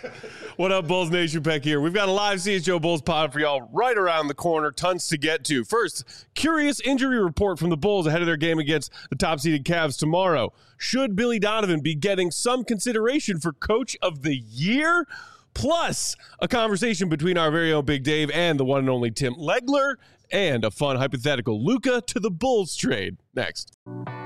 What up, Bulls Nation? Peck here. We've got a live CHO Bulls pod for y'all right around the corner. Tons to get to. First, curious injury report from the Bulls ahead of their game against the top-seeded Cavs tomorrow. Should Billy Donovan be getting some consideration for Coach of the Year? Plus, a conversation between our very own Big Dave and the one and only Tim Legler, and a fun hypothetical Luka to the Bulls trade. Next.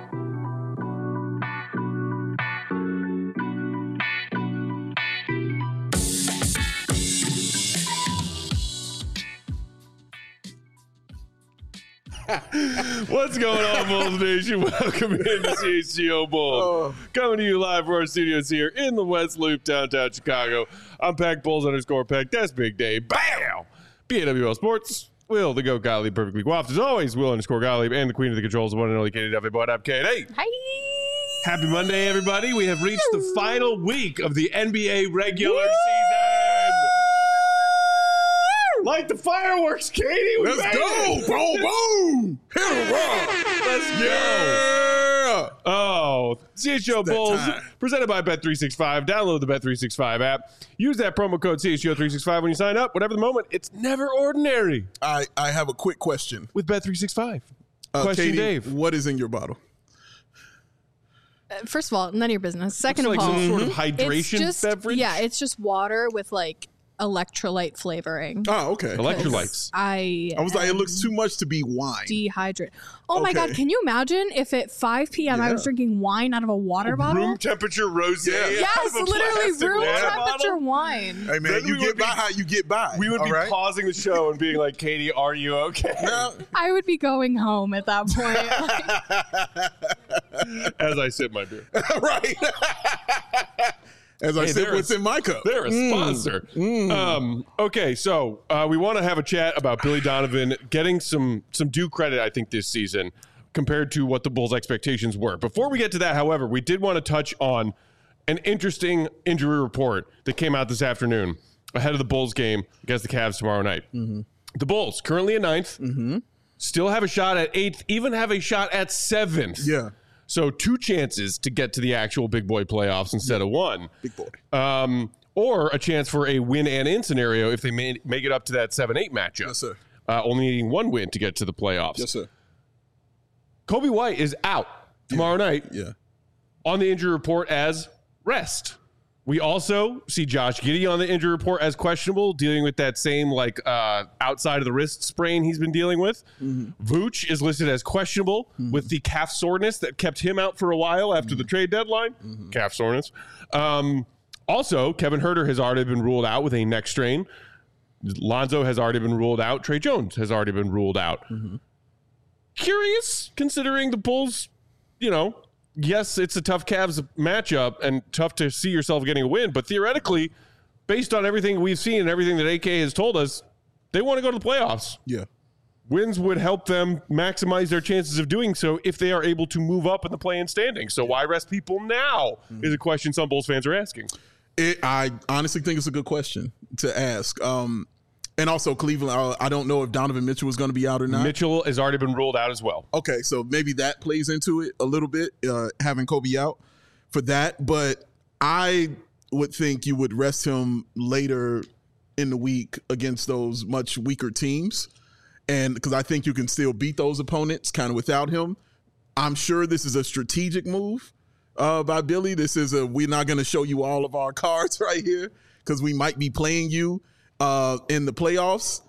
What's going on, Bulls Nation? Welcome into CHGO Bulls. Coming to you live from our studios here in the West Loop, downtown Chicago. I'm Peck Bulls_Peck. That's Big Dave. Bam! BAWL Sports. Will the GOAT Gottlieb perfectly coiffed as always. Will_Gottlieb and the queen of the controls, the one and only Katie Duffy. What up, Katie? Hi. Happy Monday, everybody. We have reached the final week of the NBA regular season. Like the fireworks, Katie. Let's go. Boom, boom. Hit a rock. Let's go. Yeah. Oh, CHGO Bulls time. presented by Bet365. Download the Bet365 app. Use that promo code CHGO365 when you sign up. Whatever the moment, it's never ordinary I have a quick question. with Bet365. Question, Katie, Dave. what is in your bottle? First of all, none of your business. Second Looks of like all, some sort of it's hydration just beverage. yeah, it's just water with like electrolyte flavoring. Oh, okay. Electrolytes. I I was like, it looks too much to be wine. dehydrate. Oh my Okay. God, can you imagine if at 5 p.m. I was Yeah. drinking wine out of a water bottle? Room temperature rosé. Yeah. Yes, out of a literally plastic room water temperature bottle. wine. Hey, man, Then you we get would by be- how you get by. We would all be right? pausing the show and being like, Katie, are you okay? Now, I would be going home at that point. As I sip my beer. right. As I Hey, said, there what's is- in my cup? They're a sponsor. Okay, so we want to have a chat about Billy Donovan getting some due credit, I think, this season compared to what the Bulls' expectations were. Before we get to that, however, we did want to touch on an interesting injury report that came out this afternoon ahead of the Bulls game against the Cavs tomorrow night. The Bulls, currently in 9th, still have a shot at 8th, even have a shot at 7th. Yeah. So 2 chances to get to the actual big boy playoffs instead of 1. Big boy. Or a chance for a win and in scenario if they make it up to that 7-8 matchup. Yes, sir. Only needing 1 win to get to the playoffs. Yes, sir. Kobe White is out tomorrow night Yeah. on the injury report as rest. We also see Josh Giddey on the injury report as questionable, dealing with that same outside of the wrist sprain he's been dealing with. Vooch is listed as questionable with the calf soreness that kept him out for a while after the trade deadline. Calf soreness. Also, Kevin Huerter has already been ruled out with a neck strain. Lonzo has already been ruled out. Trey Jones has already been ruled out. Curious, considering the Bulls, yes, it's a tough Cavs matchup and tough to see yourself getting a win, but theoretically, based on everything we've seen and everything that AK has told us, they want to go to the playoffs. Yeah. Wins would help them maximize their chances of doing so if they are able to move up in the play-in standing. So why rest people now is a question some Bulls fans are asking. I honestly think it's a good question to ask. And also Cleveland, I don't know if Donovan Mitchell was going to be out or not. Mitchell has already been ruled out as well. Okay, so maybe that plays into it a little bit, having Kobe out for that. But I would think you would rest him later in the week against those much weaker teams. And because I think you can still beat those opponents kind of without him. I'm sure this is a strategic move by Billy. This is we're not going to show you all of our cards right here because we might be playing you in the playoffs.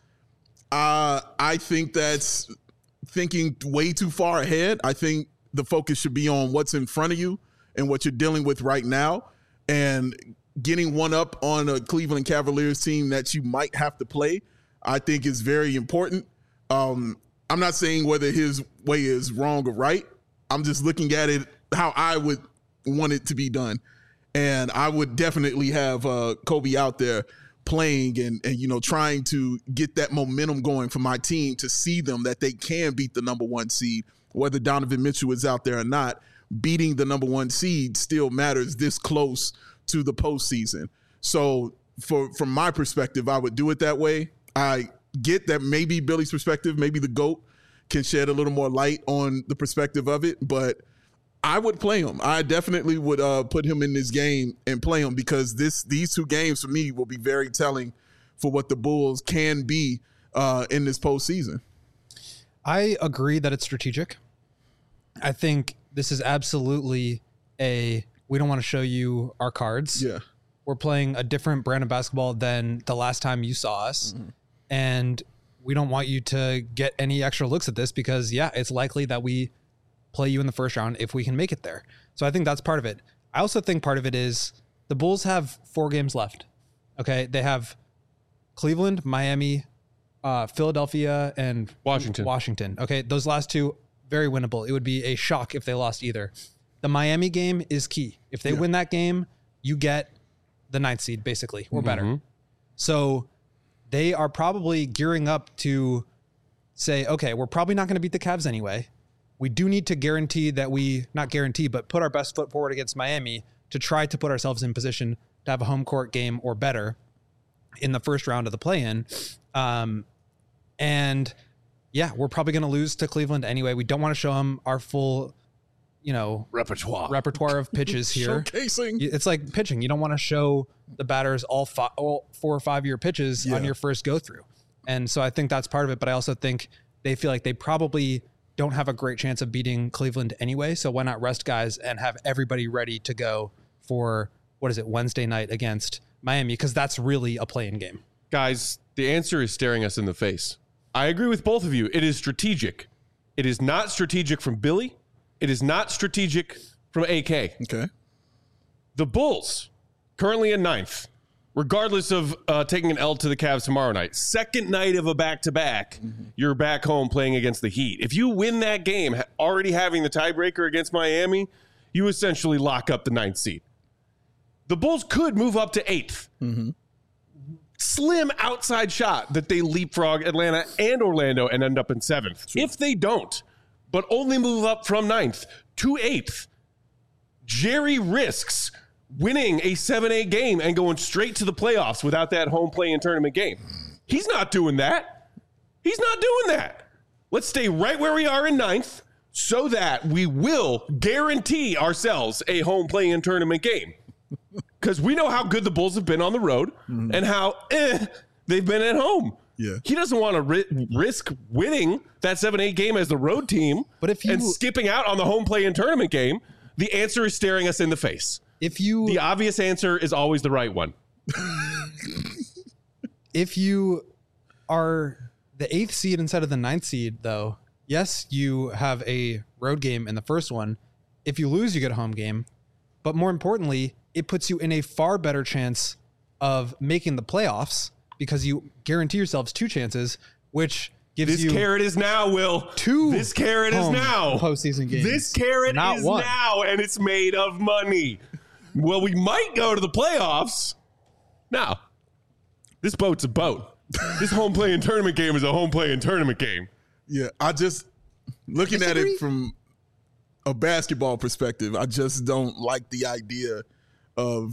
I think that's thinking way too far ahead. I think the focus should be on what's in front of you and what you're dealing with right now, and getting one up on a Cleveland Cavaliers team that you might have to play, I think is very important. I'm not saying whether his way is wrong or right. I'm just looking at it how I would want it to be done. And I would definitely have Kobe out there playing and trying to get that momentum going for my team to see them that they can beat the number 1 seed, whether Donovan Mitchell is out there or not. Beating the number 1 seed still matters this close to the postseason. So from my perspective, I would do it that way. I get that maybe Billy's perspective, maybe the GOAT can shed a little more light on the perspective of it, but I would play him. I definitely would put him in this game and play him because these two games for me will be very telling for what the Bulls can be in this postseason. I agree that it's strategic. I think this is absolutely we don't want to show you our cards. Yeah. We're playing a different brand of basketball than the last time you saw us. Mm-hmm. And we don't want you to get any extra looks at this because, it's likely that we play you in the first round if we can make it there. So I think that's part of it. I also think part of it is the Bulls have 4 games left. Okay. They have Cleveland, Miami, Philadelphia, and Washington. Okay. Those last 2, very winnable. It would be a shock if they lost either. The Miami game is key. If they win that game, you get the 9th seed basically, or better. So they are probably gearing up to say, okay, we're probably not going to beat the Cavs anyway. We do need to guarantee that not guarantee, but put our best foot forward against Miami to try to put ourselves in position to have a home court game or better in the first round of the play-in. And we're probably going to lose to Cleveland anyway. We don't want to show them our full, repertoire of pitches here. Showcasing. It's like pitching. You don't want to show the batters all 4 or 5 year pitches on your first go through. And so I think that's part of it. But I also think they feel like they probably don't have a great chance of beating Cleveland anyway. So why not rest guys and have everybody ready to go for, Wednesday night against Miami? Because that's really a play-in game. Guys, the answer is staring us in the face. I agree with both of you. It is strategic. It is not strategic from Billy. It is not strategic from AK. Okay. The Bulls, currently in 9th, regardless of taking an L to the Cavs tomorrow night, second night of a back-to-back, you're back home playing against the Heat. If you win that game, already having the tiebreaker against Miami, you essentially lock up the 9th seed. The Bulls could move up to 8th. Slim outside shot that they leapfrog Atlanta and Orlando and end up in 7th. Sure. If they don't, but only move up from 9th to 8th, Jerry risks winning a 7-8 game and going straight to the playoffs without that home play-in tournament game. He's not doing that. Let's stay right where we are in 9th so that we will guarantee ourselves a home play-in tournament game. Because we know how good the Bulls have been on the road and how they've been at home. Yeah. He doesn't want to risk winning that 7-8 game as the road team and skipping out on the home play-in tournament game. The answer is staring us in the face. The obvious answer is always the right one. If you are the 8th seed instead of the 9th seed, though, yes, you have a road game in the first one. If you lose, you get a home game. But more importantly, it puts you in a far better chance of making the playoffs because you guarantee yourselves 2 chances, which gives you... This carrot is now, Will. 2 This carrot is now. Postseason games. This carrot is now, and it's made of money. Well, we might go to the playoffs. No. This boat's a boat. This home play-in tournament game is a home play-in tournament game. Yeah, I just... Looking at it from a basketball perspective, I just don't like the idea of...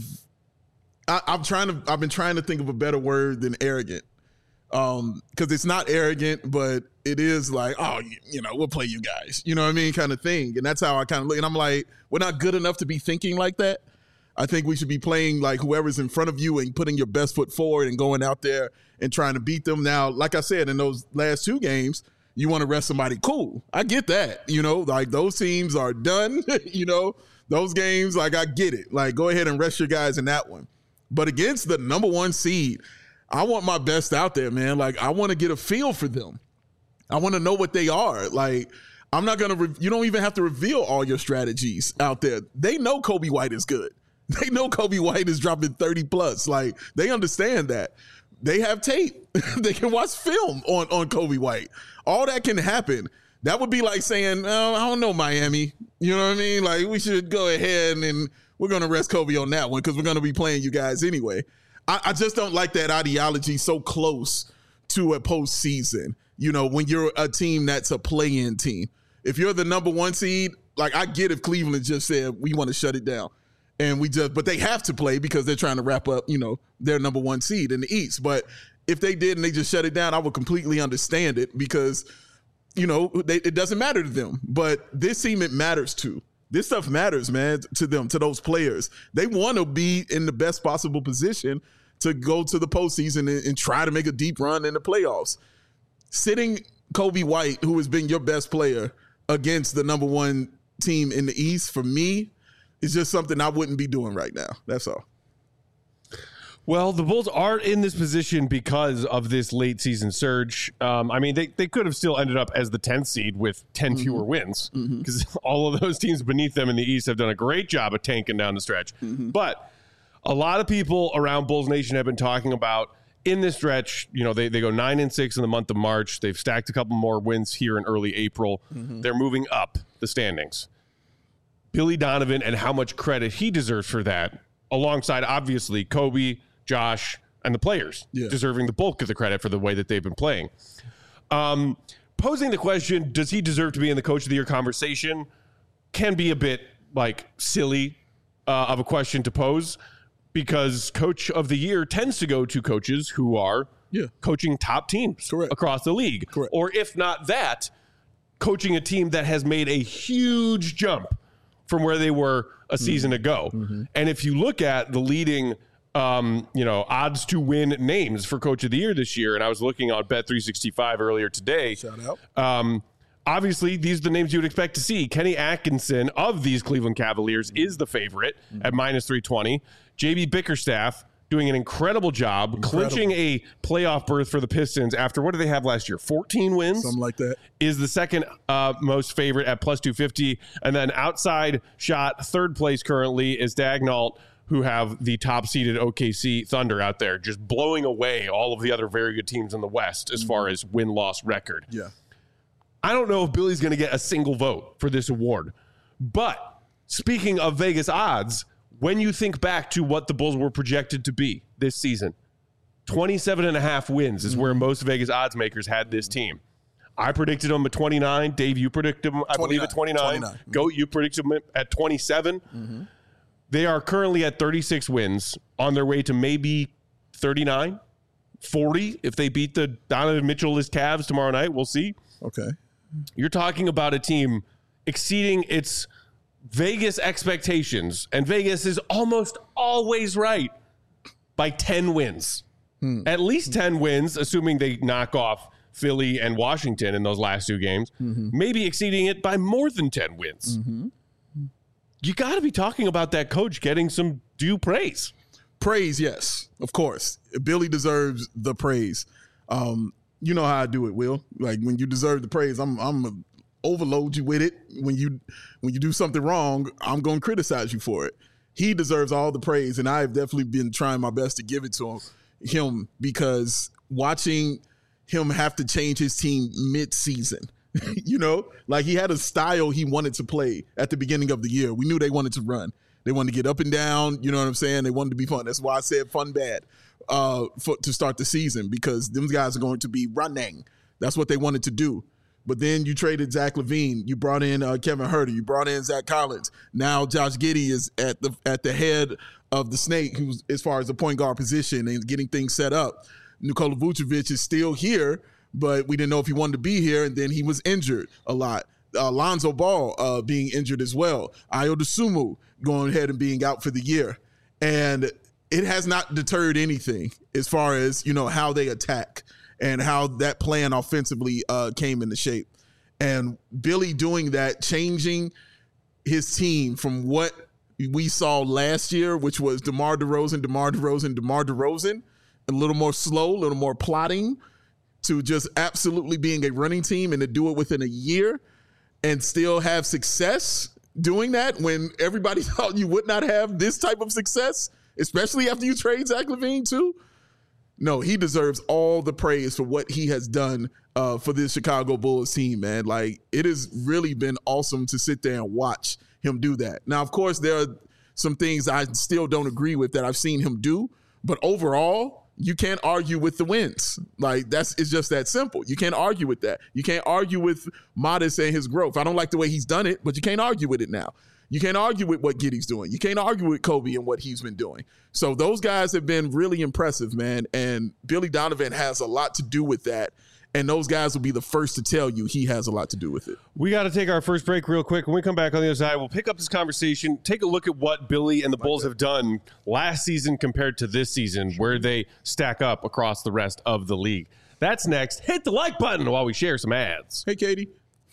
I've been trying to think of a better word than arrogant. Because it's not arrogant, but it is like, we'll play you guys. You know what I mean? Kind of thing. And that's how I kind of look. And I'm like, we're not good enough to be thinking like that. I think we should be playing like whoever's in front of you and putting your best foot forward and going out there and trying to beat them. Now, like I said, in those last 2 games, you want to rest somebody. Cool. I get that. Like those teams are done. Those games, like I get it. Like go ahead and rest your guys in that one. But against the number 1 seed, I want my best out there, man. Like, I want to get a feel for them. I want to know what they are. Like, I'm not going to, you don't even have to reveal all your strategies out there. They know Kobe White is good. They know Kobe White is dropping 30 plus. Like, they understand that. They have tape. They can watch film on Kobe White. All that can happen. That would be like saying, I don't know, Miami. You know what I mean? Like, we should go ahead and we're going to rest Kobe on that one because we're going to be playing you guys anyway. I just don't like that ideology so close to a postseason, when you're a team that's a play-in team. If you're the number 1 seed, like I get if Cleveland just said, we want to shut it down. But they have to play because they're trying to wrap up, their number 1 seed in the East. But if they did and they just shut it down, I would completely understand it because, it doesn't matter to them. But this team, it matters to. This stuff matters, man, to them, to those players. They want to be in the best possible position to go to the postseason and try to make a deep run in the playoffs. Sitting Kobe White, who has been your best player, against the number one team in the East, for me, is just something I wouldn't be doing right now. That's all. Well, the Bulls are in this position because of this late season surge. I mean, they could have still ended up as the 10th seed with 10 fewer wins because all of those teams beneath them in the East have done a great job of tanking down the stretch. But a lot of people around Bulls Nation have been talking about in this stretch, you know, they go 9-6 in the month of March. They've stacked a couple more wins here in early April. They're moving up the standings. Billy Donovan and how much credit he deserves for that, alongside obviously Kobe, Josh, and the players deserving the bulk of the credit for the way that they've been playing. Posing the question, does he deserve to be in the Coach of the Year conversation, can be a bit like silly of a question to pose, because Coach of the Year tends to go to coaches who are coaching top teams across the league. Or if not that, coaching a team that has made a huge jump from where they were a season ago. And if you look at the leading odds to win names for Coach of the Year this year, and I was looking on Bet365 earlier today. Shout out. Obviously, these are the names you would expect to see. Kenny Atkinson of these Cleveland Cavaliers is the favorite at -320. JB Bickerstaff doing an incredible job clinching a playoff berth for the Pistons after, what did they have last year? 14 wins? Something like that. Is the second most favorite at +250. And then outside shot, third place currently is Dagnall, who have the top-seeded OKC Thunder out there, just blowing away all of the other very good teams in the West as far as win-loss record. Yeah. I don't know if Billy's going to get a single vote for this award. But speaking of Vegas odds, when you think back to what the Bulls were projected to be this season, 27.5 wins is where most Vegas odds makers had this team. I predicted them at 29. Dave, you predicted them, I believe, at 29. Goat, you predicted them at 27. They are currently at 36 wins, on their way to maybe 39, 40 if they beat the Donovan Mitchell-less Cavs tomorrow night. We'll see. Okay. You're talking about a team exceeding its Vegas expectations, and Vegas is almost always right by 10 wins. At least 10 wins, assuming they knock off Philly and Washington in those last two games, maybe exceeding it by more than 10 wins. You got to be talking about that coach getting some due praise. Praise, yes, of course. Billy deserves the praise. You know how I do it, Will. Like, when you deserve the praise, I'm gonna overload you with it. When you do something wrong, I'm gonna criticize you for it. He deserves all the praise, and I've definitely been trying my best to give it to him because watching him have to change his team mid-season. You know, like, he had a style he wanted to play at the beginning of the year. We knew they wanted to run. They wanted to get up and down. You know what I'm saying? They wanted to be fun. That's why I said fun bad to start the season, because them guys are going to be running. That's what they wanted to do. But then you traded Zach LaVine. You brought in Kevin Huerter. You brought in Zach Collins. Now Josh Giddey is at the head of the snake, who's as far as the point guard position and getting things set up. Nikola Vucevic is still here, but we didn't know if he wanted to be here, and then he was injured a lot. Lonzo Ball being injured as well. Ayo Dosunmu going ahead and being out for the year. And it has not deterred anything as far as, you know, how they attack and how that plan offensively came into shape. And Billy doing that, changing his team from what we saw last year, which was DeMar DeRozan, a little more slow, a little more plotting, to just absolutely being a running team, and to do it within a year and still have success doing that when everybody thought you would not have this type of success, especially after you trade Zach LaVine too. No, he deserves all the praise for what he has done for this Chicago Bulls team, man. Like, it has really been awesome to sit there and watch him do that. Now, of course, there are some things I still don't agree with that I've seen him do, but overall, you can't argue with the wins. Like, it's just that simple. You can't argue with that. You can't argue with Modest and his growth. I don't like the way he's done it, but you can't argue with it now. You can't argue with what Giddey's doing. You can't argue with Kobe and what he's been doing. So those guys have been really impressive, man. And Billy Donovan has a lot to do with that. And those guys will be the first to tell you he has a lot to do with it. We got to take our first break real quick. When we come back on the other side, we'll pick up this conversation, take a look at what Billy and the Bulls have done last season compared to this season, where they stack up across the rest of the league. That's next. Hit the like button while we share some ads. Hey, Katie.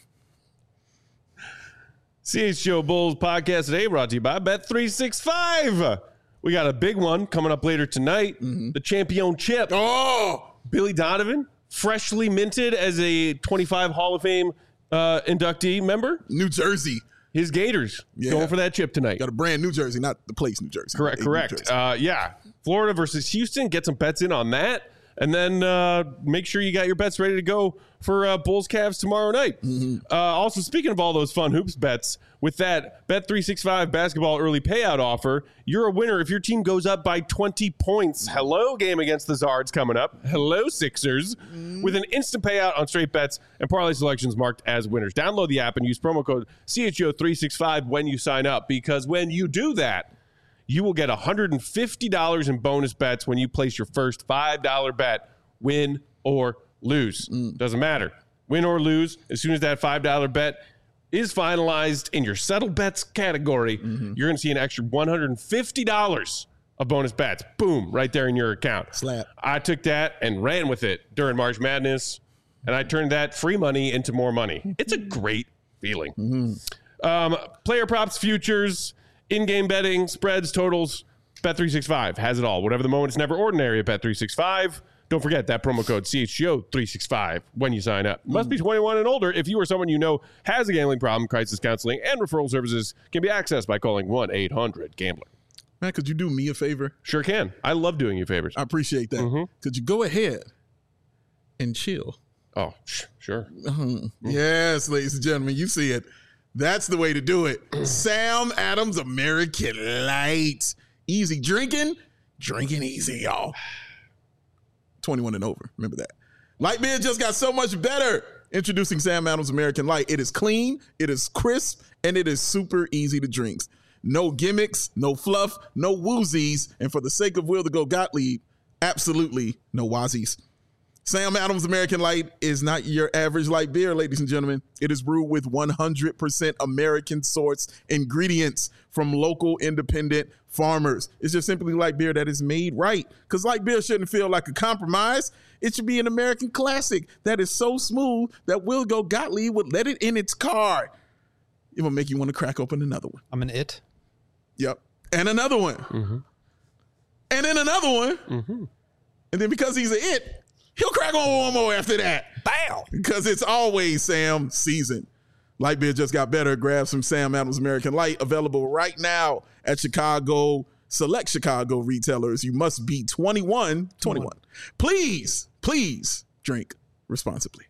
CHGO Bulls podcast today brought to you by Bet365. We got a big one coming up later tonight. The championship. Oh, Billy Donovan, freshly minted as a 25 Hall of Fame inductee member. New Jersey. His Gators going for that chip tonight. Got a brand New Jersey, not the place New Jersey. Correct. Yeah. Florida versus Houston. Get some bets in on that. And then make sure you got your bets ready to go for Bulls Cavs tomorrow night. Also, speaking of all those fun hoops bets, with that Bet365 basketball early payout offer, you're a winner if your team goes up by 20 points. Hello, game against the Zards coming up. Hello, Sixers. With an instant payout on straight bets and parlay selections marked as winners. Download the app and use promo code CHGO365 when you sign up, because when you do that, you will get $150 in bonus bets when you place your first $5 bet, win or lose. Doesn't matter. Win or lose, as soon as that $5 bet is finalized in your settled bets category, you're going to see an extra $150 of bonus bets. Boom, right there in your account. Slap. I took that and ran with it during March Madness, and I turned that free money into more money. It's a great feeling. Player props, futures, in-game betting, spreads, totals, Bet365 has it all. Whatever the moment, it's never ordinary at Bet365. Don't forget that promo code CHGO365 when you sign up. Must be 21 and older. If you or someone you know has a gambling problem, crisis counseling and referral services can be accessed by calling 1-800-GAMBLER. Man, could you do me a favor? Sure can. I love doing you favors. I appreciate that. Could you go ahead and chill? Oh, sure. Yes, ladies and gentlemen, you see it. That's the way to do it. Sam Adams American Light. Easy drinking easy, y'all. 21 and over. Remember that. Light beer just got so much better. Introducing Sam Adams American Light. It is clean, it is crisp, and it is super easy to drink. No gimmicks, no fluff, no woozies, and for the sake of Will to Go Gottlieb, absolutely no wazies. Sam Adams American Light is not your average light beer, ladies and gentlemen. It is brewed with 100% American sourced ingredients from local independent farmers. It's just simply light beer that is made right, because light beer shouldn't feel like a compromise. It should be an American classic that is so smooth that Will Go Gottlieb would let it in its car. It will make you want to crack open another one. I'm an it. Yep. And another one. And then another one. And then because he's an it, he'll crack on one more after that. Bam! Because it's always Sam season. Light beer just got better. Grab some Sam Adams American Light, available right now at select Chicago retailers. You must be 21. Please drink responsibly.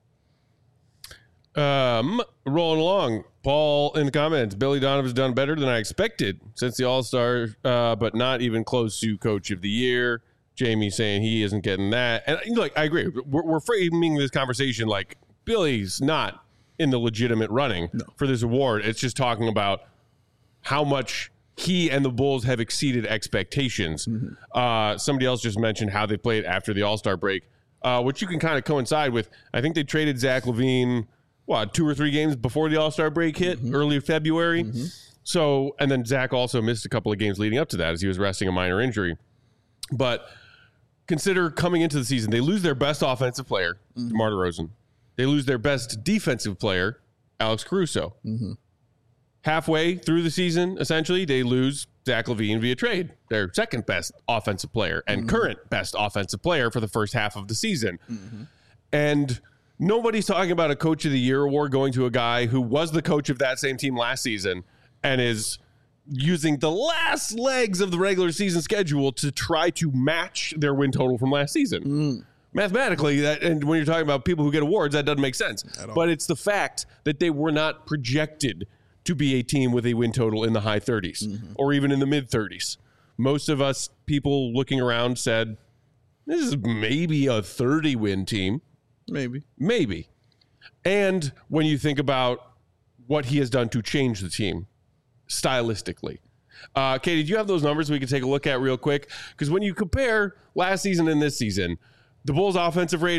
Rolling along. Paul in the comments, Billy Donovan's done better than I expected since the All-Star, but not even close to Coach of the Year. Jamie saying he isn't getting that. And like, I agree. We're framing this conversation like Billy's not in the legitimate running for this award. It's just talking about how much he and the Bulls have exceeded expectations. Somebody else just mentioned how they played after the All-Star break, which you can kind of coincide with. I think they traded Zach LaVine, 2 or 3 games before the All-Star break hit, early February. So, and then Zach also missed a couple of games leading up to that as he was resting a minor injury. But consider coming into the season, they lose their best offensive player, DeMar DeRozan. They lose their best defensive player, Alex Caruso. Halfway through the season, essentially, they lose Zach LaVine via trade, their second best offensive player and current best offensive player for the first half of the season. And nobody's talking about a Coach of the Year award going to a guy who was the coach of that same team last season and is using the last legs of the regular season schedule to try to match their win total from last season. Mathematically, that, and when you're talking about people who get awards, that doesn't make sense. But it's the fact that they were not projected to be a team with a win total in the high 30s or even in the mid 30s. Most of us people looking around said, this is maybe a 30-win team. Maybe. And when you think about what he has done to change the team stylistically. Katie, do you have those numbers we can take a look at real quick? Because when you compare last season and this season, the Bulls' offensive rating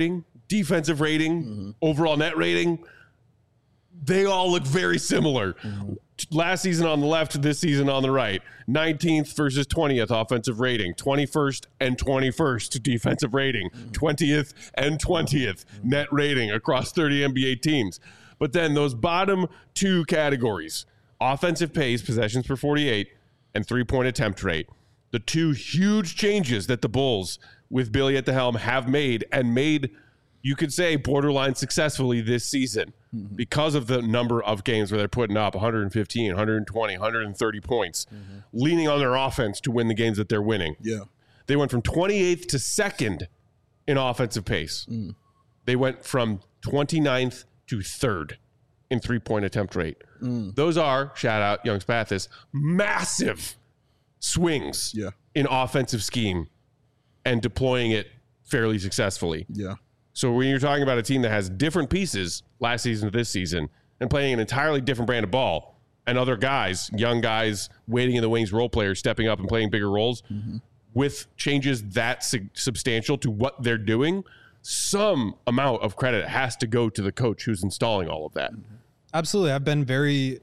defensive rating, overall net rating, they all look very similar. Last season on the left, this season on the right. 19th versus 20th offensive rating. 21st and 21st defensive rating. 20th and 20th net rating across 30 NBA teams. But then those bottom two categories, offensive pace, possessions per 48, and three-point attempt rate, the two huge changes that the Bulls, with Billy at the helm, have made, and made, you could say, borderline successfully this season because of the number of games where they're putting up 115, 120, 130 points, leaning on their offense to win the games that they're winning. Yeah. They went from 28th to 2nd in offensive pace. They went from 29th to 3rd in three-point attempt rate. Those are, shout out Young Spathis, massive swings in offensive scheme and deploying it fairly successfully. Yeah. So when you're talking about a team that has different pieces last season to this season and playing an entirely different brand of ball, and other guys, young guys, waiting in the wings, role players stepping up and playing bigger roles, with changes that substantial to what they're doing, some amount of credit has to go to the coach who's installing all of that. Absolutely. I've been very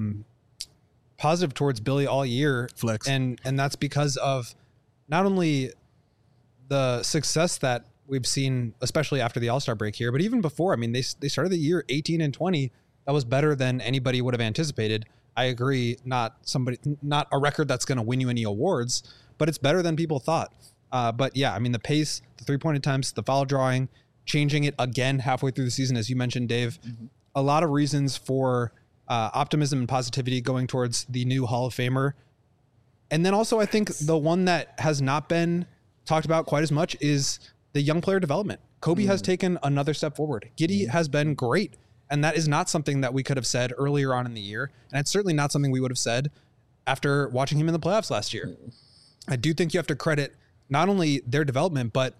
positive towards Billy all year. Flex. And that's because of not only the success that we've seen, especially after the All-Star break here, but even before. I mean, they started the year 18 and 20. That was better than anybody would have anticipated. I agree, not a record that's going to win you any awards, but it's better than people thought. But yeah, I mean, the pace, the three-point attempts, the foul drawing, changing it again halfway through the season, as you mentioned, Dave. A lot of reasons for optimism and positivity going towards the new Hall of Famer. And then also, I think the one that has not been talked about quite as much is the young player development. Kobe has taken another step forward. Giddey has been great. And that is not something that we could have said earlier on in the year. And it's certainly not something we would have said after watching him in the playoffs last year. I do think you have to credit not only their development, but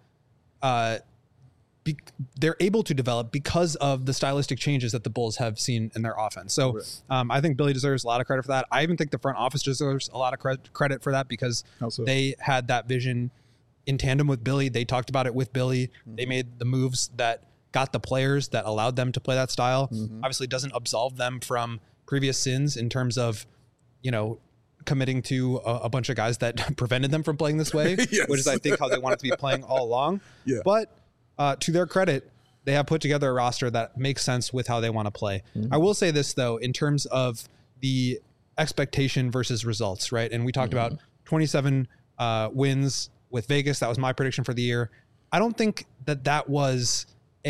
they're able to develop because of the stylistic changes that the Bulls have seen in their offense. So I think Billy deserves a lot of credit for that. I even think the front office deserves a lot of credit for that because they had that vision in tandem with Billy. They talked about it with Billy. They made the moves that got the players that allowed them to play that style. Obviously doesn't absolve them from previous sins in terms of, committing to a bunch of guys that prevented them from playing this way, which is, I think, how they wanted to be playing all along. But to their credit, they have put together a roster that makes sense with how they want to play. I will say this, though, in terms of the expectation versus results, right? And we talked about 27 wins with Vegas. That was my prediction for the year. I don't think that was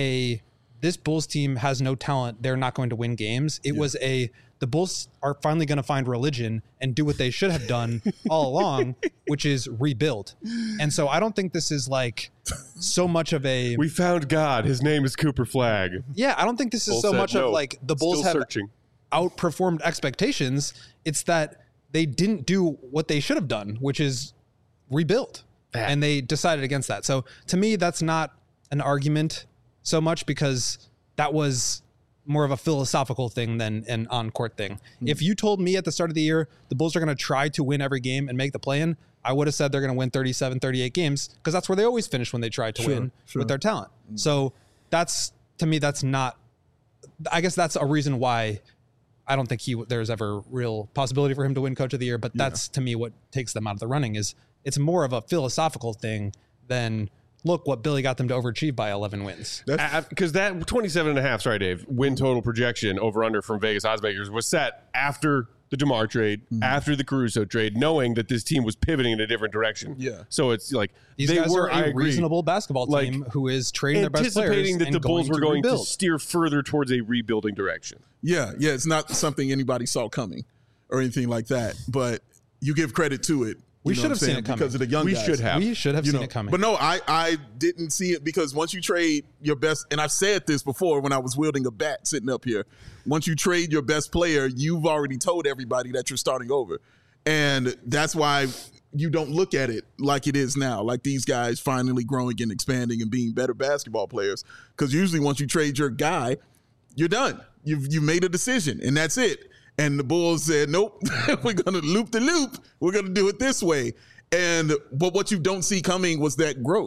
this Bulls team has no talent, they're not going to win games. It was the Bulls are finally going to find religion and do what they should have done all along, which is rebuild. And so I don't think this is like so much of a... We found God. His name is Cooper Flagg. Yeah, I don't think this is so much of like the Bulls have outperformed expectations. It's that they didn't do what they should have done, which is rebuild. And they decided against that. So to me, that's not an argument so much because that was more of a philosophical thing than an on-court thing. If you told me at the start of the year, the Bulls are going to try to win every game and make the play-in, I would have said they're going to win 37, 38 games because that's where they always finish when they try to win with their talent. So that's, to me, that's not, I guess that's a reason why I don't think there's ever real possibility for him to win Coach of the Year, but that's to me what takes them out of the running is it's more of a philosophical thing than look what Billy got them to overachieve by 11 wins. Because that 27 and a half, sorry, Dave, win total projection over under from Vegas Oddsmakers was set after the DeMar trade, after the Caruso trade, knowing that this team was pivoting in a different direction. So it's like these guys are a reasonable basketball team who is trading their best players, anticipating that the Bulls were going to steer further towards a rebuilding direction. It's not something anybody saw coming or anything like that, but you give credit to it. We should have seen it coming because of the young guys. We should have seen it coming. But no, I didn't see it because once you trade your best, and I've said this before when I was wielding a bat sitting up here, once you trade your best player, you've already told everybody that you're starting over. And that's why you don't look at it like it is now, like these guys finally growing and expanding and being better basketball players. Because usually once you trade your guy, you're done. You've made a decision, and that's it. And the Bulls said, nope, we're going to loop the loop. We're going to do it this way. But what you don't see coming was that growth.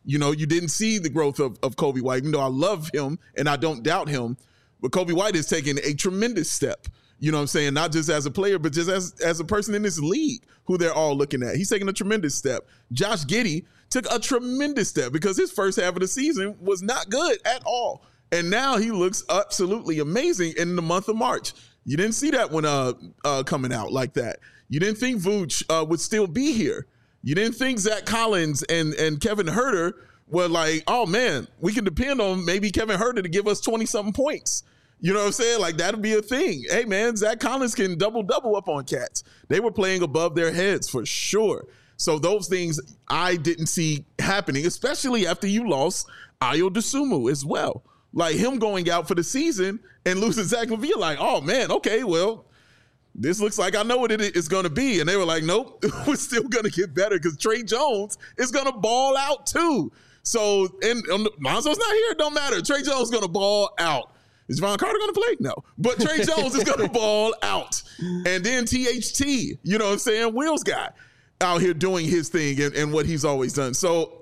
You know, you didn't see the growth of Kobe White, even though I love him and I don't doubt him. But Kobe White is taking a tremendous step. You know what I'm saying? Not just as a player, but just as a person in this league who they're all looking at. He's taking a tremendous step. Josh Giddey took a tremendous step because his first half of the season was not good at all. And now he looks absolutely amazing in the month of March. You didn't see that one coming out like that. You didn't think Vooch would still be here. You didn't think Zach Collins and Kevin Huerter were like, oh, man, we can depend on maybe Kevin Huerter to give us 20-something points. You know what I'm saying? Like, that'll be a thing. Hey, man, Zach Collins can double up on cats. They were playing above their heads for sure. So those things I didn't see happening, especially after you lost Ayo Dosunmu as well. Like, him going out for the season and losing Zach LaVine, like, oh, man, okay, well, this looks like I know what it is going to be. And they were like, nope, we're still going to get better because Trey Jones is going to ball out too. So, and Lonzo's not here. It don't matter. Trey Jones is going to ball out. Is Ron Carter going to play? No. But Trey Jones is going to ball out. And then THT, you know what I'm saying? Will's guy out here doing his thing and what he's always done. So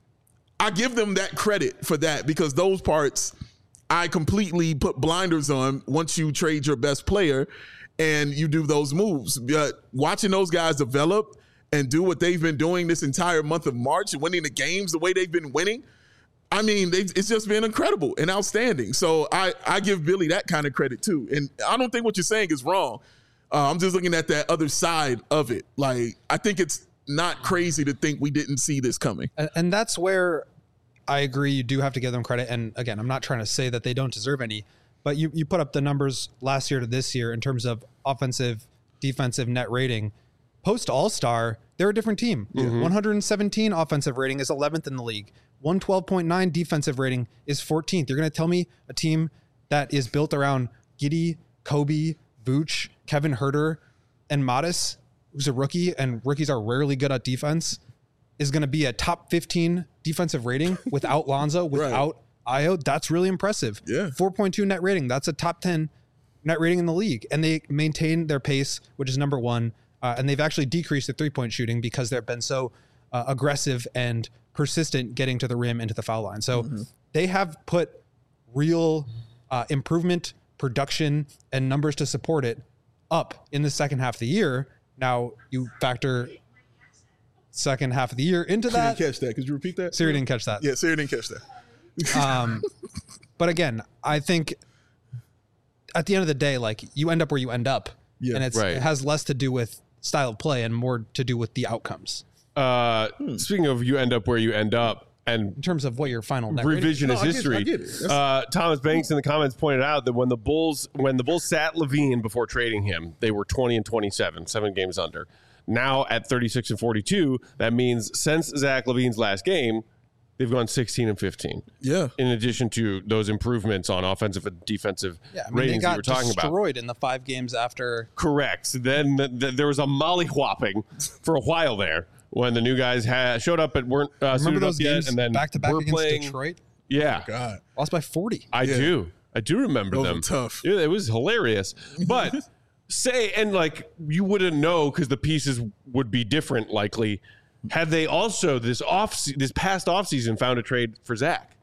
I give them that credit for that because those parts I completely put blinders on once you trade your best player and you do those moves. But watching those guys develop and do what they've been doing this entire month of March and winning the games the way they've been winning, I mean, it's just been incredible and outstanding. So I give Billy that kind of credit too. And I don't think what you're saying is wrong. I'm just looking at that other side of it. Like, I think it's not crazy to think we didn't see this coming. And that's where I agree. You do have to give them credit. And again, I'm not trying to say that they don't deserve any, but you put up the numbers last year to this year in terms of offensive, defensive net rating. Post All-Star, they're a different team. 117 offensive rating is 11th in the league. 112.9 defensive rating is 14th. You're going to tell me a team that is built around Giddey, Kobe, Vooch, Kevin Huerter, and Mattis, who's a rookie, and rookies are rarely good at defense, is going to be a top 15 defensive rating without Lonzo, without Ayo? That's really impressive. Yeah. 4.2 net rating. That's a top 10 net rating in the league. And they maintain their pace, which is number one. And they've actually decreased the three-point shooting because they've been so aggressive and persistent getting to the rim into the foul line. So they have put real improvement, production, and numbers to support it up in the second half of the year. Now you factor second half of the year into that. Didn't catch that. Could you repeat that? Siri didn't catch that. Yeah, Siri didn't catch that. But again, I think at the end of the day, like, you end up where you end up. Yeah, and it has less to do with style of play and more to do with the outcomes. Speaking of you end up where you end up, and in terms of what your final net revisionist history, I get it. Thomas Banks in the comments pointed out that when the Bulls sat LaVine before trading him, they were 20-27, 7 games under. Now at 36-42, that means since Zach LaVine's last game, they've gone 16-15. Yeah. In addition to those improvements on offensive and defensive ratings they got you were talking about. destroyed in the 5 games after. Correct. Then there was a mollywhopping for a while there when the new guys showed up but weren't Remember those yet, games and then back to back against playing, Detroit? Yeah. God. Lost by 40. I do remember Those them. were tough. Yeah, it was hilarious. But you wouldn't know because the pieces would be different likely. Had they also this past offseason found a trade for Zach?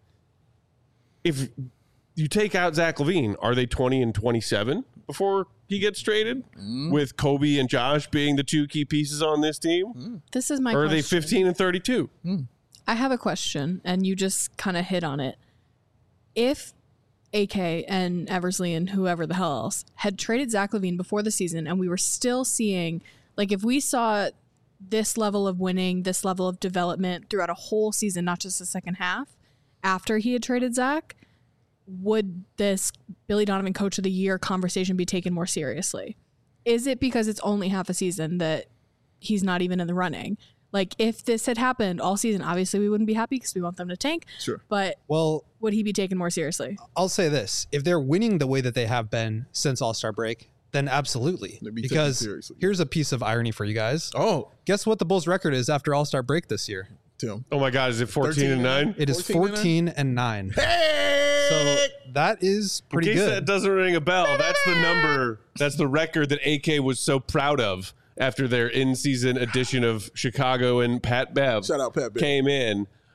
If you take out Zach LaVine, are they 20-27 before he gets traded? With Kobe and Josh being the 2 key pieces on this team? This is my Or are question. they 15-32? I have a question, and you just kind of hit on it. If AK and Eversley and whoever the hell else had traded Zach LaVine before the season, and we were still seeing, like, if we saw this level of winning, this level of development throughout a whole season, not just the second half, after he had traded Zach, would this Billy Donovan Coach of the Year conversation be taken more seriously? Is it because it's only half a season that he's not even in the running? Like, if this had happened all season, obviously we wouldn't be happy because we want them to tank. Sure. But would he be taken more seriously? I'll say this. If they're winning the way that they have been since All-Star break, then absolutely. Because here's a piece of irony for you guys. Oh. Guess what the Bulls' record is after All-Star break this year? Tim. Oh my God, is it 14-9? It is 14-9. Hey! So that is pretty In case good. that doesn't ring a bell, that's the number. That's the record that AK was so proud of after their in-season edition of Chicago and Pat Bev Shout out Pat Bev. came in.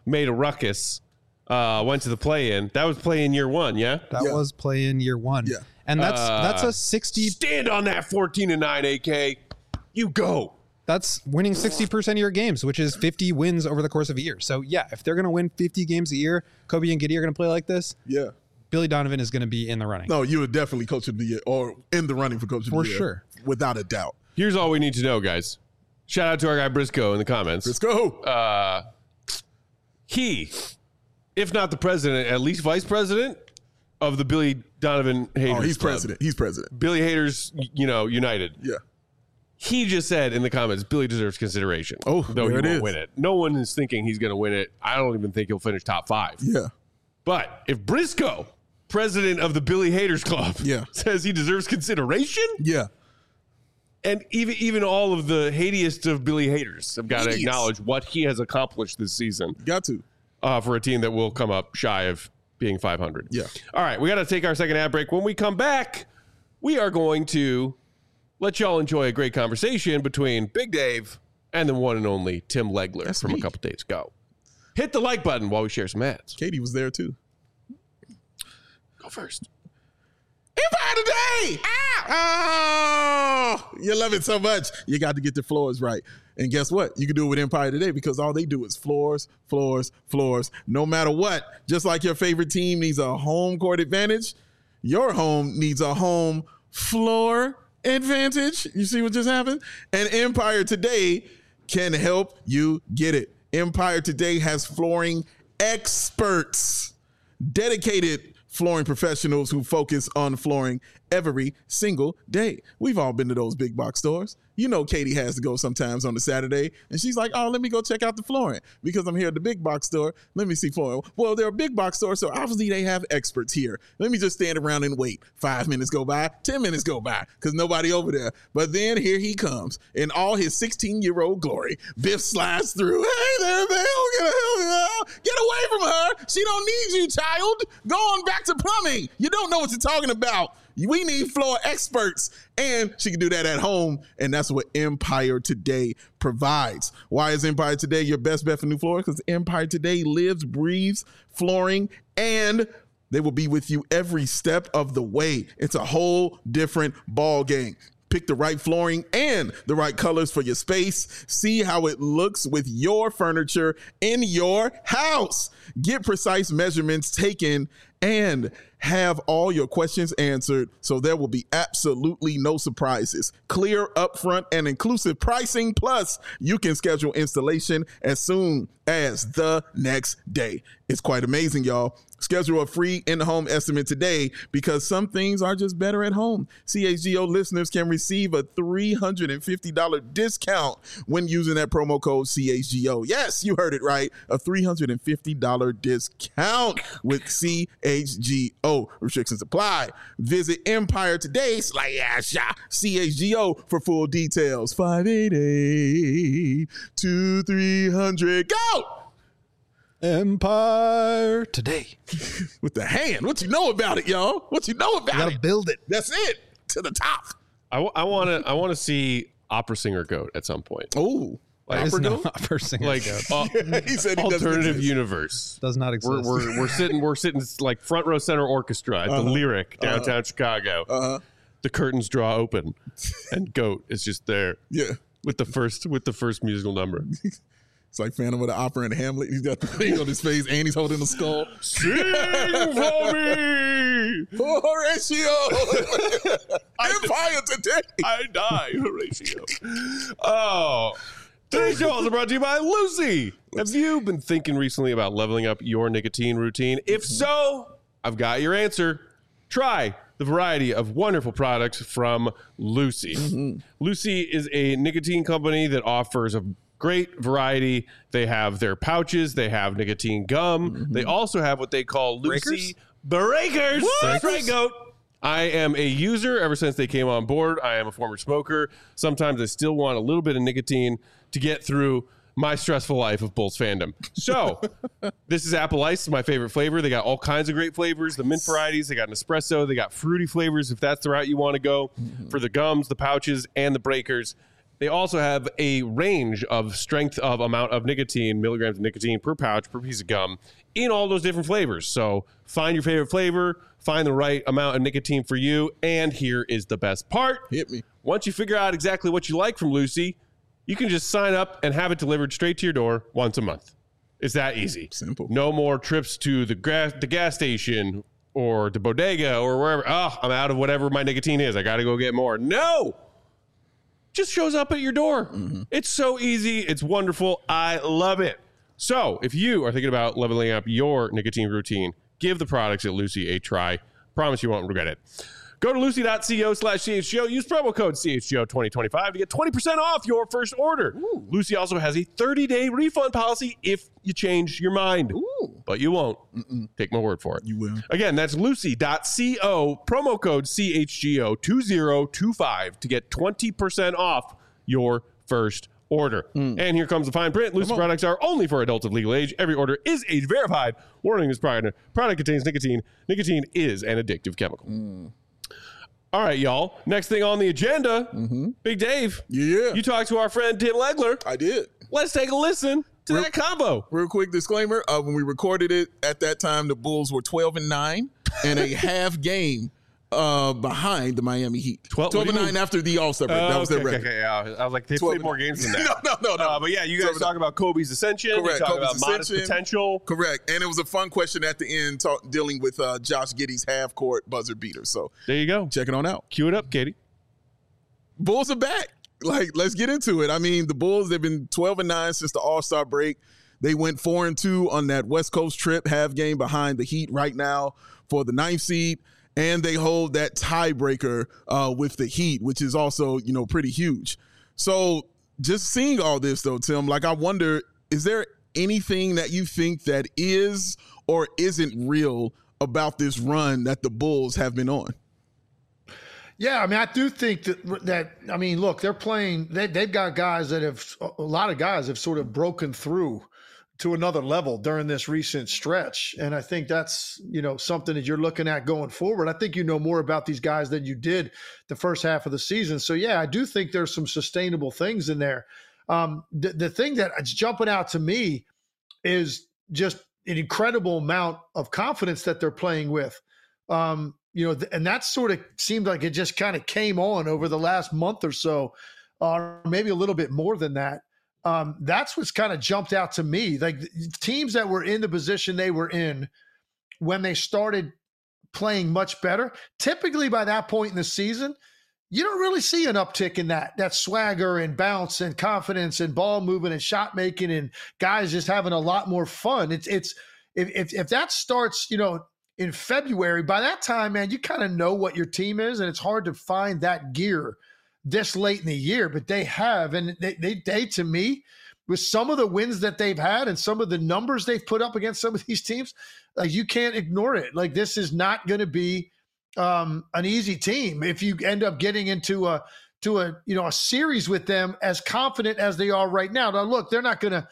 made a ruckus, went to the play-in. That was play-in year 1, yeah? That was play-in year 1. Yeah. And that's a 60. Stand on that 14-9, AK. You go. That's winning 60% of your games, which is 50 wins over the course of a year. So, yeah, if they're going to win 50 games a year, Kobe and Giddey are going to play like this. Yeah. Billy Donovan is going to be in the running. No, you would definitely coach of the year or in the running for coach of the year. For sure. Without a doubt. Here's all we need to know, guys. Shout out to our guy Briscoe in the comments. Let's go. He, if not the president, at least vice president of the Billy Donovan Haters He's Club. president. He's president. Billy Haters, United. Yeah. He just said in the comments, Billy deserves consideration. Oh, though there he it won't is. win it. No one is thinking he's going to win it. I don't even think he'll finish top 5. Yeah. But if Briscoe, president of the Billy Haters Club, Yeah. says he deserves consideration, Yeah. and even all of the hatiest of Billy haters have got to Idiots. acknowledge what he has accomplished this season Got to. for a team that will come up shy of being 500. Yeah. All right, we got to take our second ad break. When we come back, we are going to let y'all enjoy a great conversation between Big Dave and the one and only Tim Legler That's from me. a couple days ago. Hit the like button while we share some ads. Katie was there too. Go first. Empire Today! Oh, you love it so much. You got to get the floors right. And guess what? You can do it with Empire Today because all they do is floors, floors, floors. No matter what, just like your favorite team needs a home court advantage, your home needs a home floor advantage. You see what just happened? And Empire Today can help you get it. Empire Today has flooring experts, dedicated flooring professionals who focus on flooring every single day. We've all been to those big box stores. You know, Katie has to go sometimes on a Saturday, and she's like, oh, let me go check out the flooring because I'm here at the big box store. Let me see flooring. Well, they're a big box store, so obviously they have experts here. Let me just stand around and wait. 5 minutes go by, 10 minutes go by because nobody over there. But then here he comes in all his 16-year-old glory. Biff slides through. Hey there, Bill. Get away from her. She don't need you, child. Go on back to plumbing. You don't know what you're talking about. We need floor experts, and she can do that at home, and that's what Empire Today provides. Why is Empire Today your best bet for new floors? Because Empire Today lives, breathes flooring, and they will be with you every step of the way. It's a whole different ball game. Pick the right flooring and the right colors for your space. See how it looks with your furniture in your house. Get precise measurements taken and have all your questions answered so there will be absolutely no surprises. Clear, upfront, and inclusive pricing. Plus, you can schedule installation as soon as the next day. It's quite amazing, y'all. Schedule a free in-home estimate today because some things are just better at home. CHGO listeners can receive a $350 discount when using that promo code CHGO. Yes, you heard it right. A $350 discount with CHGO. Restrictions apply. Visit Empire Today /CHGO for full details. 588-2300. Go! Empire Today. With the hand. What you know about it, y'all? What you know about You gotta it? build it. That's it. To the top. I want to see opera singer goat at some point. Oh. Like, There's Opera no goat? opera singer like goat. He said he doesn't alternative exist. universe. Does not exist. We're sitting like front row center orchestra at the Lyric downtown Chicago. The curtains draw open, and Goat is just there Yeah. with the first musical number. It's like Phantom of the Opera and Hamlet. He's got the thing on his face and he's holding the skull. Sing for me, Horatio! Empire Today! I die, Horatio. Oh. Today's show also brought to you by Lucy. Have you been thinking recently about leveling up your nicotine routine? If so, I've got your answer. Try the variety of wonderful products from Lucy. Lucy is a nicotine company that offers a great variety. They have their pouches. They have nicotine gum. They also have what they call Lucy Breakers. That's right, Goat. I am a user ever since they came on board. I am a former smoker. Sometimes I still want a little bit of nicotine to get through my stressful life of Bulls fandom. So this is Apple Ice, my favorite flavor. They got all kinds of great flavors. The mint varieties, they got an espresso. They got fruity flavors if that's the route you want to go. For the gums, the pouches, and the breakers. They also have a range of strength of amount of nicotine, milligrams of nicotine per pouch, per piece of gum, in all those different flavors. So find your favorite flavor, find the right amount of nicotine for you, and here is the best part. Hit me. Once you figure out exactly what you like from Lucy, you can just sign up and have it delivered straight to your door once a month. It's that easy. Simple. No more trips to the gas station or the bodega or wherever. Oh, I'm out of whatever my nicotine is. I got to go get more. No. Just shows up at your door. It's so easy. It's wonderful. I love it. So if you are thinking about leveling up your nicotine routine, give the products at Lucy a try. Promise you won't regret it. Go to lucy.co/CHGO. Use promo code CHGO2025 to get 20% off your first order. Ooh. Lucy also has a 30-day refund policy if you change your mind. Ooh. But you won't. Take my word for it. You will. Again, that's lucy.co, promo code CHGO2025 to get 20% off your first order. And here comes the fine print. Lucy products are only for adults of legal age. Every order is age verified. Warning: this product contains nicotine. Nicotine is an addictive chemical. All right, y'all. Next thing on the agenda, Big Dave. Yeah. You talked to our friend Tim Legler. I did. Let's take a listen to that combo. Real quick disclaimer. When we recorded it at that time, the Bulls were 12-9 and a half game behind the Miami Heat. 12-9 after the All-Star break. That was their record. Okay, yeah. I was like, they played more games than that. No. But yeah, you guys talk about Kobe's ascension. Correct. You talk Kobe's about modest potential. Correct. And it was a fun question at the end dealing with Josh Giddey's half-court buzzer beater. So there you go. Check it on out. Cue it up, Katie. Bulls are back. Let's get into it. I mean, the Bulls, they've been 12-9 since the All-Star break. They went 4-2 on that West Coast trip, half game behind the Heat right now for the 9th seed. And they hold that tiebreaker with the Heat, which is also, pretty huge. So just seeing all this, though, Tim, I wonder, is there anything that you think that is or isn't real about this run that the Bulls have been on? Yeah, I mean, I do think that look, they're playing, they've got guys a lot of guys have sort of broken through to another level during this recent stretch. And I think that's, something that you're looking at going forward. I think you know more about these guys than you did the first half of the season. So yeah, I do think there's some sustainable things in there. The thing that's jumping out to me is just an incredible amount of confidence that they're playing with. And that sort of seemed like it just kind of came on over the last month or so, or maybe a little bit more than that. That's what's kind of jumped out to me. Like teams that were in the position they were in when they started playing much better, typically by that point in the season, you don't really see an uptick in that swagger and bounce and confidence and ball movement and shot making and guys just having a lot more fun. If that starts, in February, by that time, man, you kind of know what your team is, and it's hard to find that gear this late in the year, but they have. And they to me, with some of the wins that they've had and some of the numbers they've put up against some of these teams, like you can't ignore it. Like this is not going to be an easy team if you end up getting into a series with them as confident as they are right now. Now, look, they're not gonna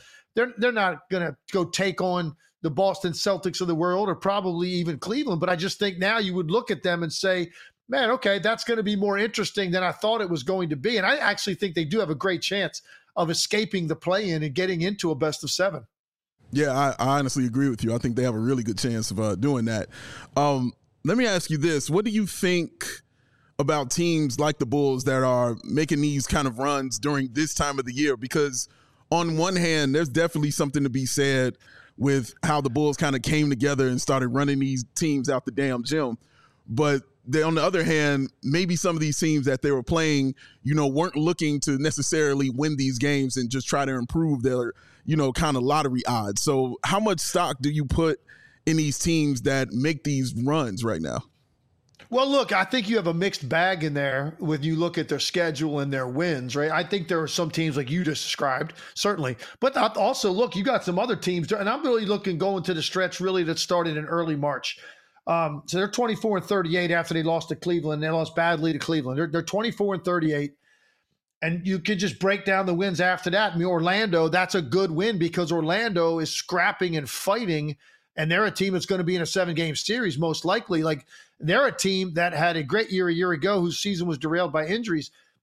go take on the Boston Celtics of the world or probably even Cleveland. But I just think now you would look at them and say, man, okay, that's going to be more interesting than I thought it was going to be. And I actually think they do have a great chance of escaping the play-in and getting into a best of 7. Yeah, I honestly agree with you. I think they have a really good chance of doing that. Let me ask you this. What do you think about teams like the Bulls that are making these kind of runs during this time of the year? Because on one hand, there's definitely something to be said with how the Bulls kind of came together and started running these teams out the damn gym. But on the other hand, maybe some of these teams that they were playing, weren't looking to necessarily win these games and just try to improve their, kind of lottery odds. So how much stock do you put in these teams that make these runs right now? Well, look, I think you have a mixed bag in there when you look at their schedule and their wins, right? I think there are some teams like you just described, certainly. But also, look, you got some other teams, and I'm really looking going to the stretch really that started in early March. So they're 24-38 after they lost to Cleveland. They lost badly to Cleveland. They're 24-38. And you can just break down the wins after that. I mean, Orlando, that's a good win because Orlando is scrapping and fighting, and they're a team that's going to be in a 7-game series most likely. Like they're a team that had a great year a year ago whose season was derailed by injuries.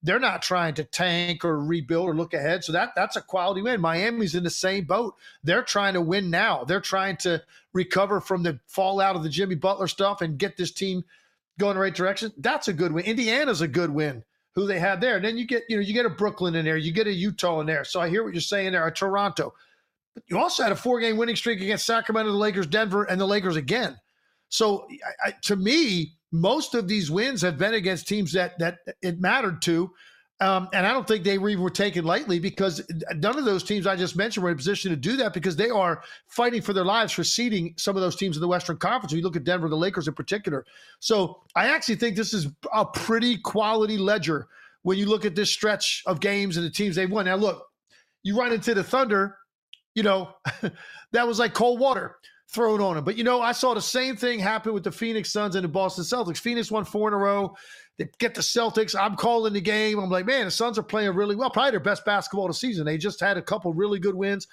They're not trying to tank or rebuild or look ahead. So that's a quality win. Miami's in the same boat. They're trying to win now. They're trying to recover from the fallout of the Jimmy Butler stuff and get this team going in the right direction. That's a good win. Indiana's a good win, who they had there. And then you get a Brooklyn in there. You get a Utah in there. So I hear what you're saying there, a Toronto. But you also had a 4-game winning streak against Sacramento, the Lakers, Denver, and the Lakers again. So to me, most of these wins have been against teams that it mattered to. And I don't think they were taken lightly, because none of those teams I just mentioned were in a position to do that, because they are fighting for their lives for seeding some of those teams in the Western Conference. When you look at Denver, the Lakers in particular. So I actually think this is a pretty quality ledger when you look at this stretch of games and the teams they've won. Now, look, you run into the Thunder, that was like cold water thrown on them. But, I saw the same thing happen with the Phoenix Suns and the Boston Celtics. Phoenix won 4 in a row. They get the Celtics. I'm calling the game. I'm like, man, the Suns are playing really well. Probably their best basketball of the season. They just had a couple really good wins.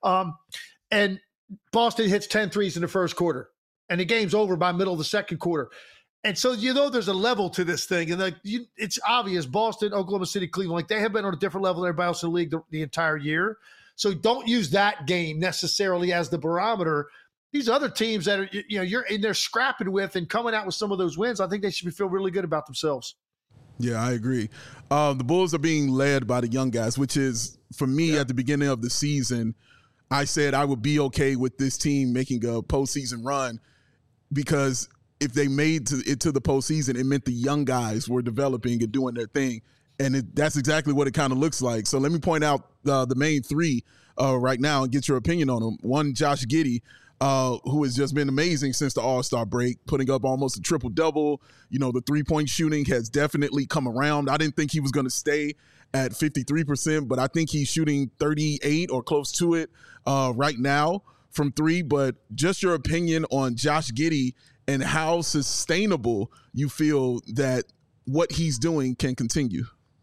And Boston hits 10 threes in the first quarter. And the game's over by middle of the second quarter. And so, there's a level to this thing. And it's obvious, Boston, Oklahoma City, Cleveland, they have been on a different level than everybody else in the league the entire year. So don't use that game necessarily as the barometer. These other teams that are, you're in there scrapping with and coming out with some of those wins, I think they should feel really good about themselves. Yeah, I agree. The Bulls are being led by the young guys, which is, for me, at the beginning of the season, I said I would be okay with this team making a postseason run, because if they made it to the postseason, it meant the young guys were developing and doing their thing. And that's exactly what it kind of looks like. So let me point out the main three right now and get your opinion on them. One, Josh Giddey, who has just been amazing since the All-Star break, putting up almost a triple-double. The three-point shooting has definitely come around. I didn't think he was going to stay at 53%, but I think he's shooting 38 or close to it right now from three. But just your opinion on Josh Giddey and how sustainable you feel that what he's doing can continue.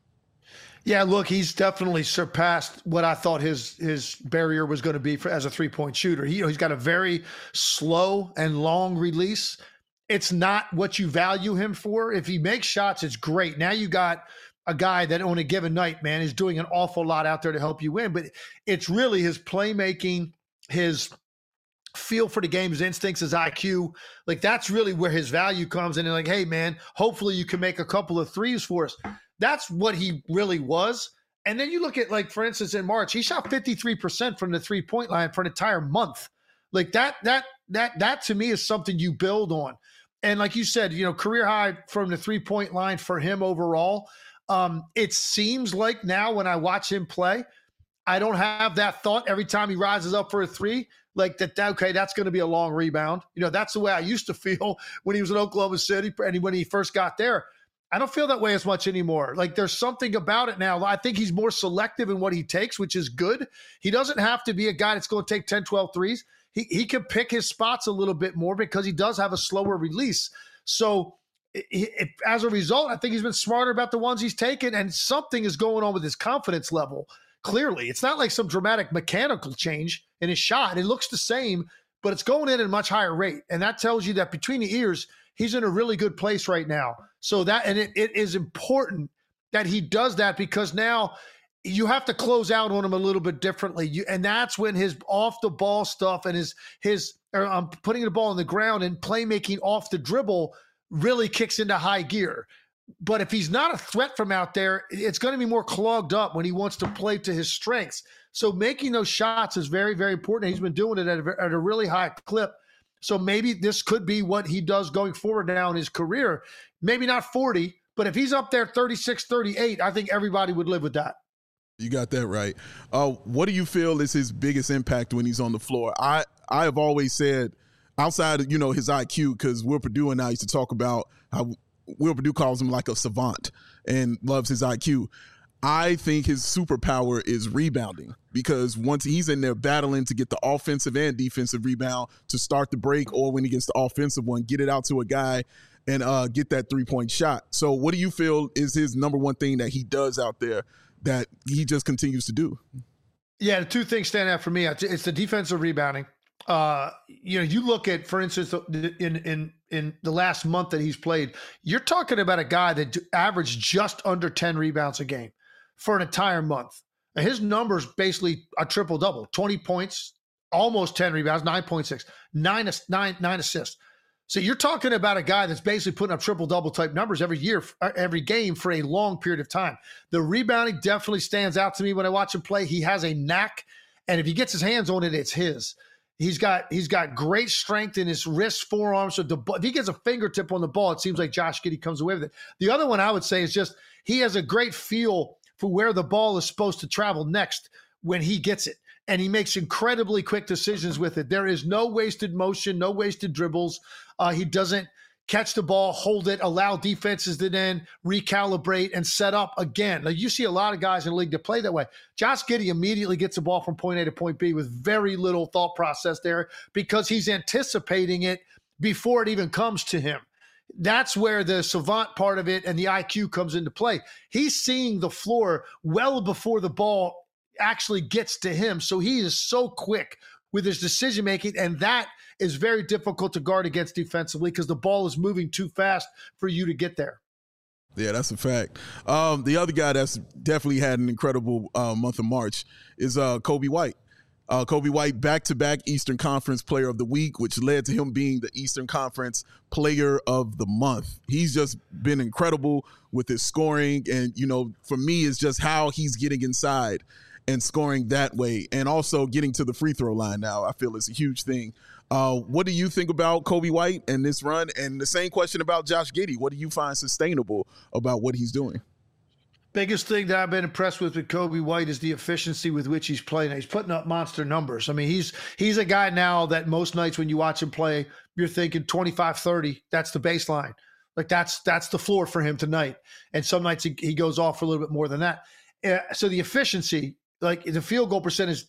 Yeah, look, he's definitely surpassed what I thought his barrier was going to be as a three-point shooter. He's got a very slow and long release. It's not what you value him for. If he makes shots, it's great. Now you got a guy that on a given night, man, is doing an awful lot out there to help you win. But it's really his playmaking, his feel for the game, his instincts, his IQ. Like, that's really where his value comes in. And like, hey, man, hopefully you can make a couple of threes for us. That's what he really was. And then you look at, like, for instance, in March, he shot 53% from the three-point line for an entire month. Like, that to me is something you build on. And like you said, career high from the three-point line for him overall. It seems like now when I watch him play, I don't have that thought every time he rises up for a three, like okay, that's going to be a long rebound. That's the way I used to feel when he was in Oklahoma City and when he first got there. I don't feel that way as much anymore. Like, there's something about it now. I think he's more selective in what he takes, which is good. He doesn't have to be a guy that's going to take 10, 12 threes. He can pick his spots a little bit more because he does have a slower release. So as a result, I think he's been smarter about the ones he's taken, and something is going on with his confidence level. Clearly, it's not like some dramatic mechanical change in his shot. It looks the same, but it's going in at a much higher rate. And that tells you that between the ears, he's in a really good place right now. So it is important that he does that, because now you have to close out on him a little bit differently. And that's when his off the ball stuff and his putting the ball on the ground and playmaking off the dribble really kicks into high gear. But if he's not a threat from out there, it's going to be more clogged up when he wants to play to his strengths. So making those shots is very, very important. He's been doing it at a really high clip. So maybe this could be what he does going forward now in his career. Maybe not 40, but if he's up there 36, 38, I think everybody would live with that. You got that right. What do you feel is his biggest impact when he's on the floor? I have always said, outside of, his IQ, because Will Perdue and I used to talk about how Will Perdue calls him like a savant and loves his IQ. I think his superpower is rebounding, because once he's in there battling to get the offensive and defensive rebound to start the break, or when he gets the offensive one, get it out to a guy and get that three-point shot. So what do you feel is his number one thing that he does out there that he just continues to do? Yeah, the two things stand out for me. It's the defensive rebounding. You look at, for instance, in in the last month that he's played. You're talking about a guy that averaged just under 10 rebounds a game for an entire month. And his numbers basically a triple double, 20 points, almost 10 rebounds, 9.6, nine assists. So you're talking about a guy that's basically putting up triple double type numbers every year, every game for a long period of time. The rebounding definitely stands out to me when I watch him play. He has a knack, and if he gets his hands on it, it's his. He's got great strength in his wrists, forearms. So if he gets a fingertip on the ball, it seems like Josh Giddey comes away with it. The other one I would say is just he has a great feel for where the ball is supposed to travel next when he gets it. And he makes incredibly quick decisions with it. There is no wasted motion, no wasted dribbles. He doesn't catch the ball, hold it, allow defenses to then recalibrate and set up again. Like you see a lot of guys in the league that play that way. Josh Giddey immediately gets the ball from point A to point B with very little thought process there because he's anticipating it before it even comes to him. That's where the savant part of it and the IQ comes into play. He's seeing the floor well before the ball actually gets to him. So he is so quick with his decision making, and that is very difficult to guard against defensively because the ball is moving too fast for you to get there. Yeah, that's a fact. The other guy that's definitely had an incredible month of March is Coby White. Coby White, back-to-back Eastern Conference Player of the Week, which led to him being the Eastern Conference Player of the Month. He's just been incredible with his scoring, and, you know, for me, it's just how he's getting inside and scoring that way, and also getting to the free throw line now, I feel is a huge thing. What do you think about Coby White and this run? And the same question about Josh Giddey. What do you find sustainable about what he's doing? Biggest thing that I've been impressed with Coby White is the efficiency with which he's playing. He's putting up monster numbers. I mean, he's a guy now that most nights when you watch him play, you're thinking 25, 30, that's the baseline. Like that's the floor for him tonight. And some nights he goes off for a little bit more than that. So the efficiency, like the field goal percentage,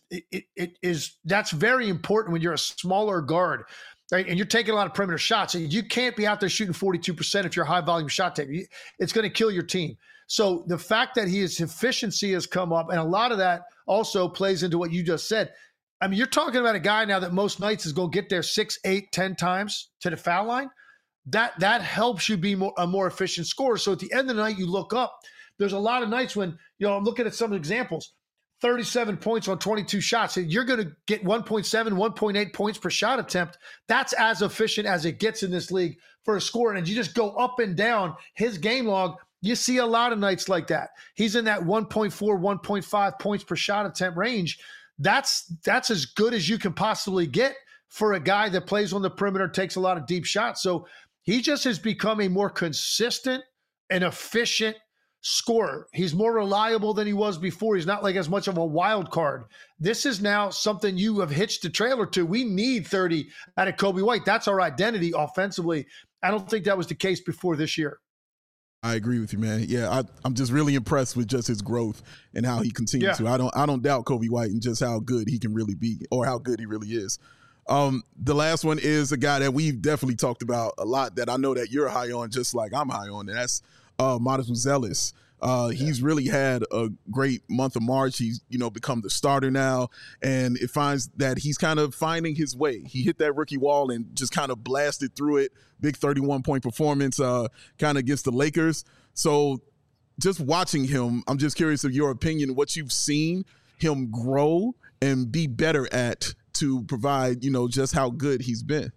that's very important when you're a smaller guard, right? And you're taking a lot of perimeter shots. And you can't be out there shooting 42% if you're a high volume shot taker. It's going to kill your team. So the fact that his efficiency has come up, and a lot of that also plays into what you just said. I mean, you're talking about a guy now that most nights is going to get there 6, 8, 10 times to the foul line. That helps you be a more efficient scorer. So at the end of the night, you look up. There's a lot of nights when, you know, I'm looking at some examples. 37 points on 22 shots. You're going to get 1.7, 1.8 points per shot attempt. That's as efficient as it gets in this league for a scorer. And you just go up and down his game log. You see a lot of nights like that. He's in that 1.4, 1.5 points per shot attempt range. That's as good as you can possibly get for a guy that plays on the perimeter, takes a lot of deep shots. So he just has become a more consistent and efficient scorer. He's more reliable than he was before. He's not like as much of a wild card. This is now something you have hitched a trailer to. We need 30 out of Coby White. That's our identity offensively. I don't think that was the case before this year. I agree with you, man. Yeah, I'm just really impressed with just his growth and how he continues to. I don't doubt Coby White and just how good he can really be, or how good he really is. The last one is a guy that we've definitely talked about a lot that I know that you're high on, just like I'm high on, and that's Modest Zealous. He's really had a great month of March. He's, become the starter now, and it finds that he's kind of finding his way. He hit that rookie wall and just kind of blasted through it. Big 31-point performance kind of against the Lakers. So just watching him, I'm just curious of your opinion, what you've seen him grow and be better at to provide, just how good he's been.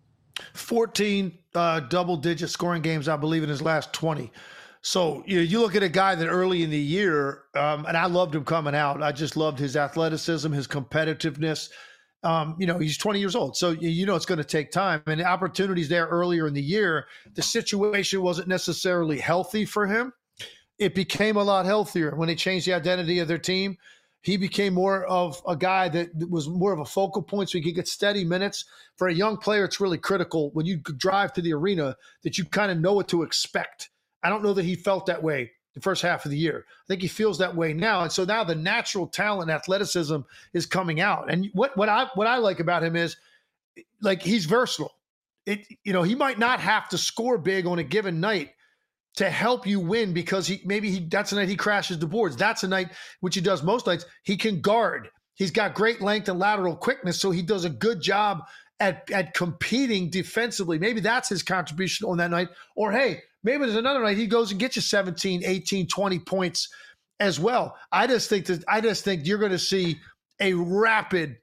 14 double-digit scoring games, I believe, in his last 20. So you look at a guy that early in the year, and I loved him coming out. I just loved his athleticism, his competitiveness. He's 20 years old, so it's going to take time. And the opportunities there earlier in the year, the situation wasn't necessarily healthy for him. It became a lot healthier when they changed the identity of their team. He became more of a guy that was more of a focal point, so he could get steady minutes. For a young player, it's really critical when you drive to the arena that you kind of know what to expect. I don't know that he felt that way the first half of the year. I think he feels that way now. And so now the natural talent, athleticism is coming out. And what I like about him is, like, he's versatile. He might not have to score big on a given night to help you win because that's a night he crashes the boards. That's a night, which he does most nights, he can guard. He's got great length and lateral quickness, so he does a good job at competing defensively. Maybe that's his contribution on that night. Or, hey, maybe there's another night he goes and gets you 17, 18, 20 points as well. I just think you're going to see a rapid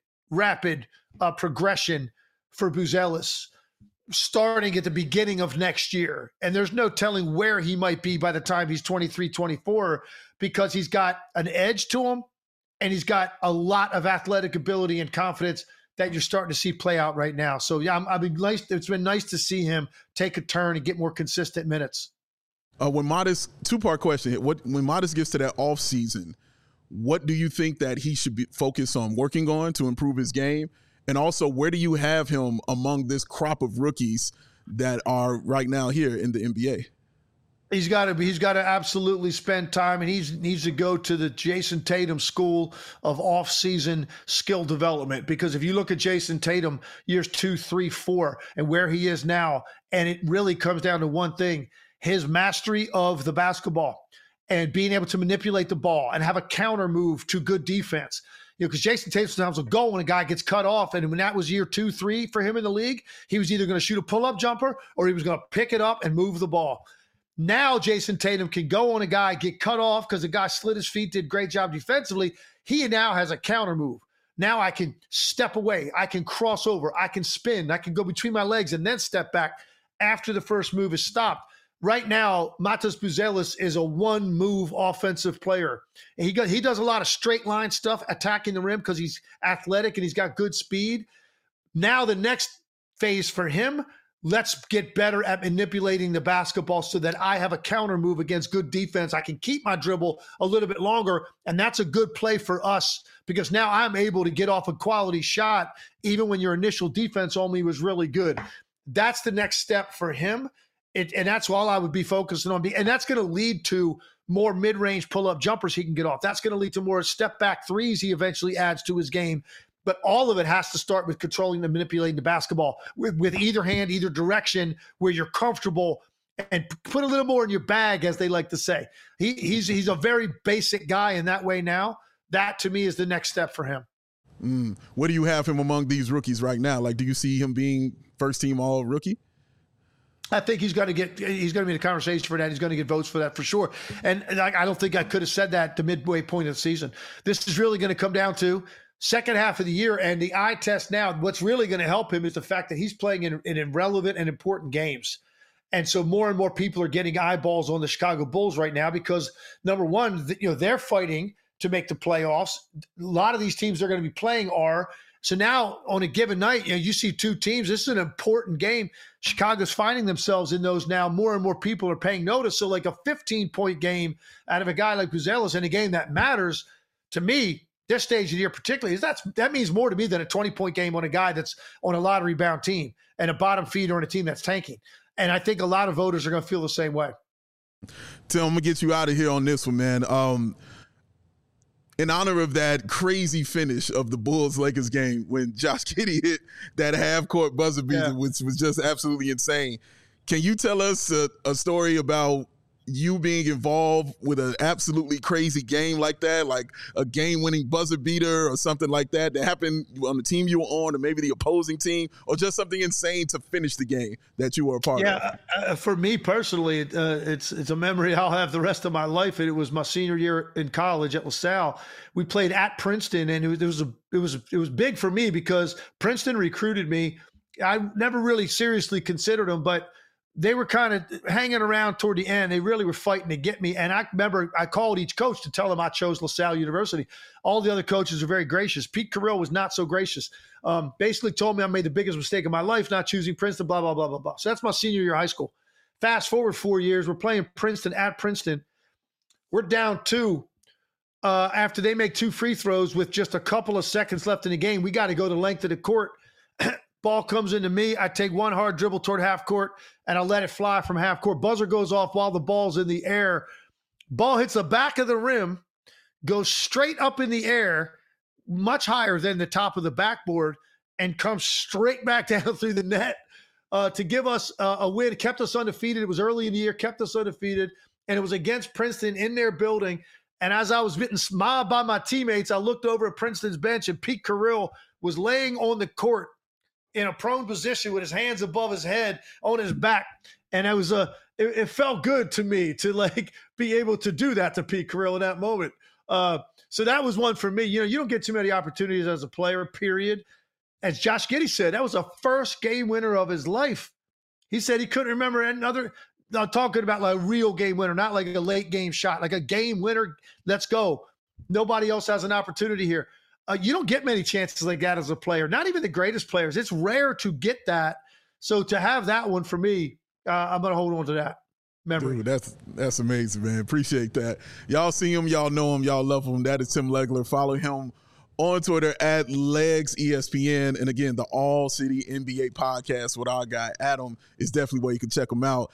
progression for Buzelis starting at the beginning of next year. And there's no telling where he might be by the time he's 23, 24, because he's got an edge to him and he's got a lot of athletic ability and confidence that you're starting to see play out right now. So, yeah, it's been nice to see him take a turn and get more consistent minutes. When Modest, two-part question, when Modest gets to that off season, what do you think that he should be focused on working on to improve his game? And also, where do you have him among this crop of rookies that are right now here in the NBA? He's got to absolutely spend time, and he needs to go to the Jason Tatum school of off-season skill development. Because if you look at Jason Tatum years 2, 3, 4, and where he is now, and it really comes down to one thing: his mastery of the basketball and being able to manipulate the ball and have a counter move to good defense. Because Jason Tatum sometimes will go when a guy gets cut off. And when that was year 2, 3 for him in the league, he was either going to shoot a pull-up jumper or he was going to pick it up and move the ball. Now Jason Tatum can go on a guy, get cut off because the guy slid his feet, did a great job defensively. He now has a counter move. Now I can step away. I can cross over. I can spin. I can go between my legs and then step back after the first move is stopped. Right now, Matas Buzelis is a one-move offensive player. And he does a lot of straight line stuff, attacking the rim because he's athletic and he's got good speed. Now the next phase for him, let's get better at manipulating the basketball so that I have a counter move against good defense. I can keep my dribble a little bit longer, and that's a good play for us because now I'm able to get off a quality shot even when your initial defense on me was really good. That's the next step for him. And that's all I would be focusing on. And that's going to lead to more mid-range pull-up jumpers he can get off. That's going to lead to more step-back threes he eventually adds to his game. But all of it has to start with controlling and manipulating the basketball with either hand, either direction, where you're comfortable, and put a little more in your bag, as they like to say. He's a very basic guy in that way now. That, to me, is the next step for him. Where do you have him among these rookies right now? Like, do you see him being first-team all-rookie? I think he's going to be in the conversation for that. He's going to get votes for that for sure. And I don't think I could have said that at the midway point of the season. This is really going to come down to second half of the year and the eye test now. What's really going to help him is the fact that he's playing in irrelevant and important games. And so more and more people are getting eyeballs on the Chicago Bulls right now because, number one, they're fighting to make the playoffs. A lot of these teams they're going to be playing are. So now on a given night, you see two teams. This is an important game. Chicago's finding themselves in those now. More and more people are paying notice. So like a 15-point game out of a guy like Buzelis in a game that matters, to me, this stage of the year particularly, that means more to me than a 20-point game on a guy that's on a lottery-bound team and a bottom feeder on a team that's tanking. And I think a lot of voters are going to feel the same way. Tim, I'm going to get you out of here on this one, man. In honor of that crazy finish of the Bulls-Lakers game when Josh Giddey hit that half-court buzzer beater, which was just absolutely insane, can you tell us a story about you being involved with an absolutely crazy game like that, like a game-winning buzzer beater or something like that happened on the team you were on or maybe the opposing team, or just something insane to finish the game that you were a part of? For me personally, it's a memory I'll have the rest of my life. It was my senior year in college at LaSalle. We played at Princeton, and it was big for me because Princeton recruited me. I never really seriously considered them, but they were kind of hanging around toward the end. They really were fighting to get me. And I remember I called each coach to tell them I chose LaSalle University. All the other coaches were very gracious. Pete Carrill was not so gracious. Basically told me I made the biggest mistake of my life not choosing Princeton, blah, blah, blah, blah, blah. So that's my senior year of high school. Fast forward 4 years, we're playing Princeton at Princeton. We're down 2 after they make 2 free throws with just a couple of seconds left in the game. We got to go the length of the court. Ball comes into me. I take one hard dribble toward half court, and I let it fly from half court. Buzzer goes off while the ball's in the air. Ball hits the back of the rim, goes straight up in the air, much higher than the top of the backboard, and comes straight back down through the net to give us a win. It kept us undefeated. It was early in the year, kept us undefeated, and it was against Princeton in their building. And as I was getting mobbed by my teammates, I looked over at Princeton's bench, and Pete Carrill was laying on the court in a prone position with his hands above his head on his back. And it felt good to me to like be able to do that to Pete Carril in that moment. So that was one for me. You don't get too many opportunities as a player, period. As Josh Giddey said, that was a first game winner of his life. He said he couldn't remember another. I'm talking about like a real game winner, not like a late game shot, like a game winner. Let's go. Nobody else has an opportunity here. You don't get many chances like that as a player, not even the greatest players. It's rare to get that. So to have that one for me, I'm going to hold on to that memory. Dude, that's amazing, man. Appreciate that. Y'all see him, y'all know him, y'all love him. That is Tim Legler. Follow him on Twitter at LegsESPN. And again, the All City NBA podcast with our guy Adam is definitely where you can check him out.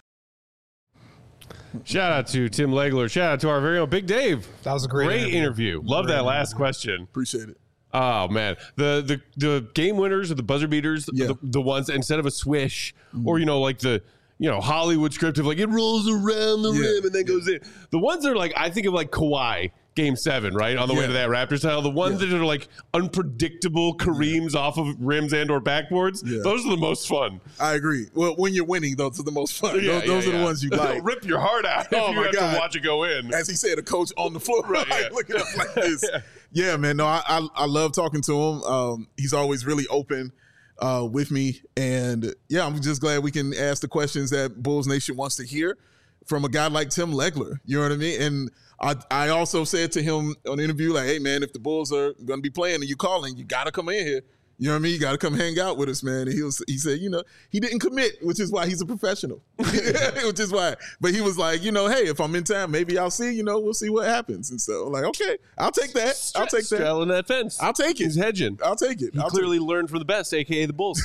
Shout out to Tim Legler. Shout out to our very own Big Dave. That was a great interview. Love that last question. Appreciate it. Oh man, the game winners or the buzzer beaters, the ones instead of a swish or like the Hollywood script of like it rolls around the rim and then goes in. The ones that are like I think of like Kawhi Game 7, right on the way to that Raptors title. The ones that are like unpredictable Kareems off of rims and or backboards. Those are the most fun. I agree. Well, when you're winning, those are the most fun. Those are the ones you like. Rip your heart out if you have to watch it go in. As he said, a coach on the floor, right? Looking up like this. Yeah, man. No, I love talking to him. He's always really open with me. And yeah, I'm just glad we can ask the questions that Bulls Nation wants to hear from a guy like Tim Legler. You know what I mean? And I also said to him on the interview, like, hey, man, if the Bulls are going to be playing and you calling, you got to come in here. You know what I mean? You got to come hang out with us, man. And he said, he didn't commit, which is why he's a professional, which is why. But he was like, hey, if I'm in town, maybe I'll see, we'll see what happens. And so I'm like, okay, I'll take that. I'll take that. Straddling that fence. I'll take it. He's hedging. I'll take it. He clearly learned from the best, a.k.a. the Bulls.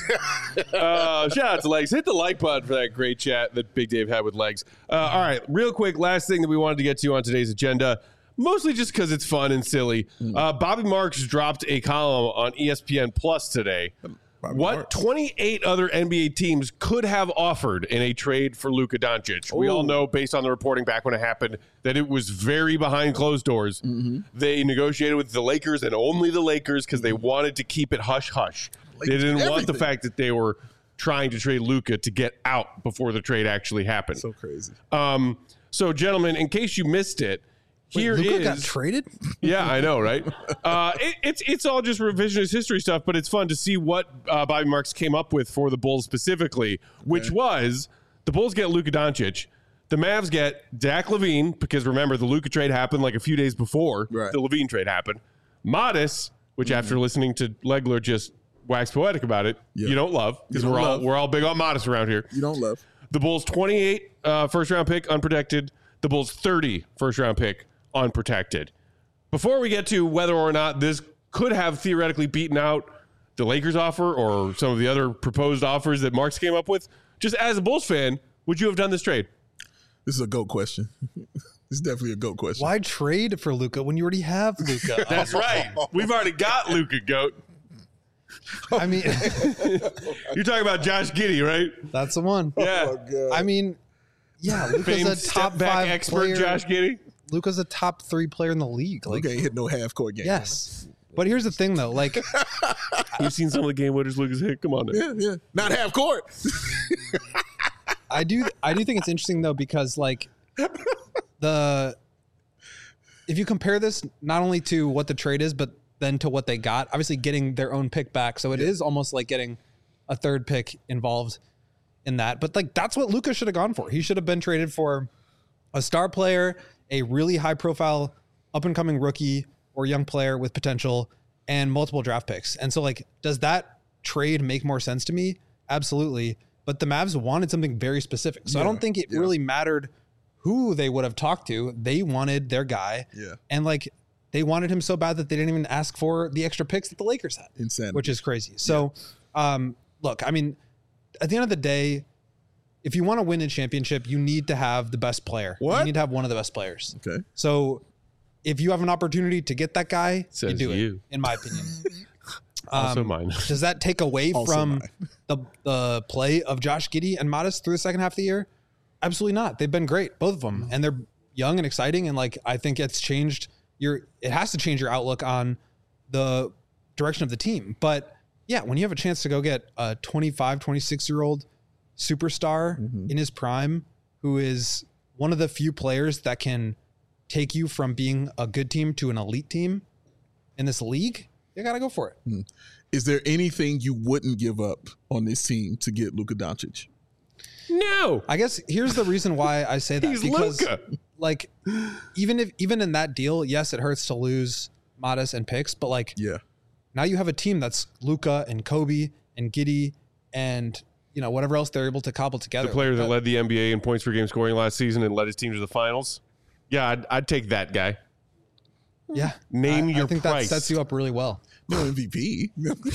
Shout out to Legs. Hit the like button for that great chat that Big Dave had with Legs. All right, real quick, last thing that we wanted to get to on today's agenda, mostly just because it's fun and silly. Bobby Marks dropped a column on ESPN Plus today. What 28 other NBA teams could have offered in a trade for Luka Doncic? We all know, based on the reporting back when it happened, that it was very behind closed doors. They negotiated with the Lakers and only the Lakers because they wanted to keep it hush-hush. They didn't want the fact that they were trying to trade Luka to get out before the trade actually happened. So crazy. So, gentlemen, in case you missed it, Luka got traded? Yeah, I know, right? It's all just revisionist history stuff, but it's fun to see what Bobby Marks came up with for the Bulls specifically, which was the Bulls get Luka Doncic, the Mavs get Zach LaVine, because remember, the Luka trade happened like a few days before the LaVine trade happened. Modest, which after listening to Legler just wax poetic about it, you don't love, because we're all big on Modest around here. You don't love. The Bulls 28 first-round pick, unprotected. The Bulls 30 first-round pick, unprotected. Before we get to whether or not this could have theoretically beaten out the Lakers offer or some of the other proposed offers that Marks came up with, just as a Bulls fan, would you have done this trade? This is a GOAT question. This is definitely a GOAT question. Why trade for Luka when you already have Luka? That's right. We've already got Luka, GOAT. I mean, you're talking about Josh Giddey, right? That's the one. Yeah. Oh, my God. I mean, yeah, Luka's a top back 5 expert, player. Josh Giddey. Luka's a top 3 player in the league. Like, Luka ain't hit no half-court game. Yes. But here's the thing, though. Like, you've seen some of the game winners Luka's hit. Come on now. Yeah. Not half-court. I do think it's interesting, though, because, like, if you compare this not only to what the trade is, but then to what they got, obviously getting their own pick back. So it is almost like getting a third pick involved in that. But like, that's what Luka should have gone for. He should have been traded for a star player, a really high profile up and coming rookie or young player with potential, and multiple draft picks. And so like, does that trade make more sense to me? Absolutely. But the Mavs wanted something very specific. So I don't think it really mattered who they would have talked to. They wanted their guy. Yeah. And like, they wanted him so bad that they didn't even ask for the extra picks that the Lakers had. Insanity. Which is crazy. So, look, I mean, at the end of the day, if you want to win a championship, you need to have the best player. What? You need to have one of the best players. Okay. So if you have an opportunity to get that guy, Says you do you. it, in my opinion. Also mine. Does that take away from the play of Josh Giddey and Modest through the second half of the year? Absolutely not. They've been great, both of them. And they're young and exciting. And like, I think it's changed it has to change your outlook on the direction of the team. But yeah, when you have a chance to go get a 25, 26-year-old superstar in his prime, who is one of the few players that can take you from being a good team to an elite team in this league, you got to go for it. Is there anything you wouldn't give up on this team to get Luka Doncic? No. I guess here's the reason why I say that. He's because Luka. like even in that deal, yes, it hurts to lose Modest and picks, but like Yeah. now you have a team that's Luka and Kobe and Giddey and whatever else they're able to cobble together. The player that led the NBA in points per game scoring last season and led his team to the finals. Yeah, I'd take that guy. Yeah. Name your I think price. that sets you up really well. No MVP.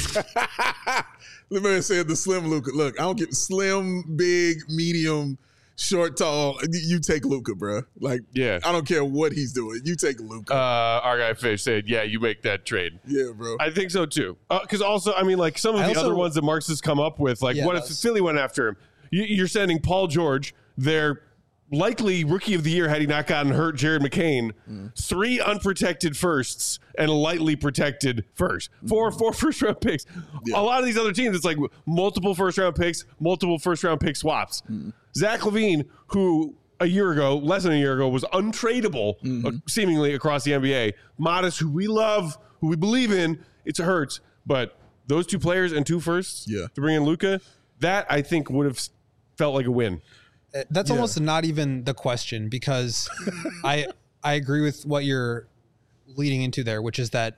The man said the slim Luka. Look, I don't get slim, big, medium, short, tall. You take Luka, bro. Like, Yeah. I don't care what he's doing. You take Luka. Our guy Fish said, yeah, you make that trade. Yeah, bro. I think so too. Because also, I mean, like some of the other ones that Marks has come up with, like Yeah, what if those. Philly went after him? You're sending Paul George, their likely rookie of the year had he not gotten hurt, Jared McCain, 3 unprotected firsts and a lightly protected first. 4 first-round picks. Yeah. A lot of these other teams, it's like multiple first-round picks, multiple first-round pick swaps. Zach LaVine, who less than a year ago, was untradeable seemingly across the NBA. Modest, who we love, who we believe in, it hurts. But those 2 players and 2 firsts Yeah. to bring in Luka, that I think would have felt like a win. That's almost not even the question, because I agree with what you're leading into there, which is that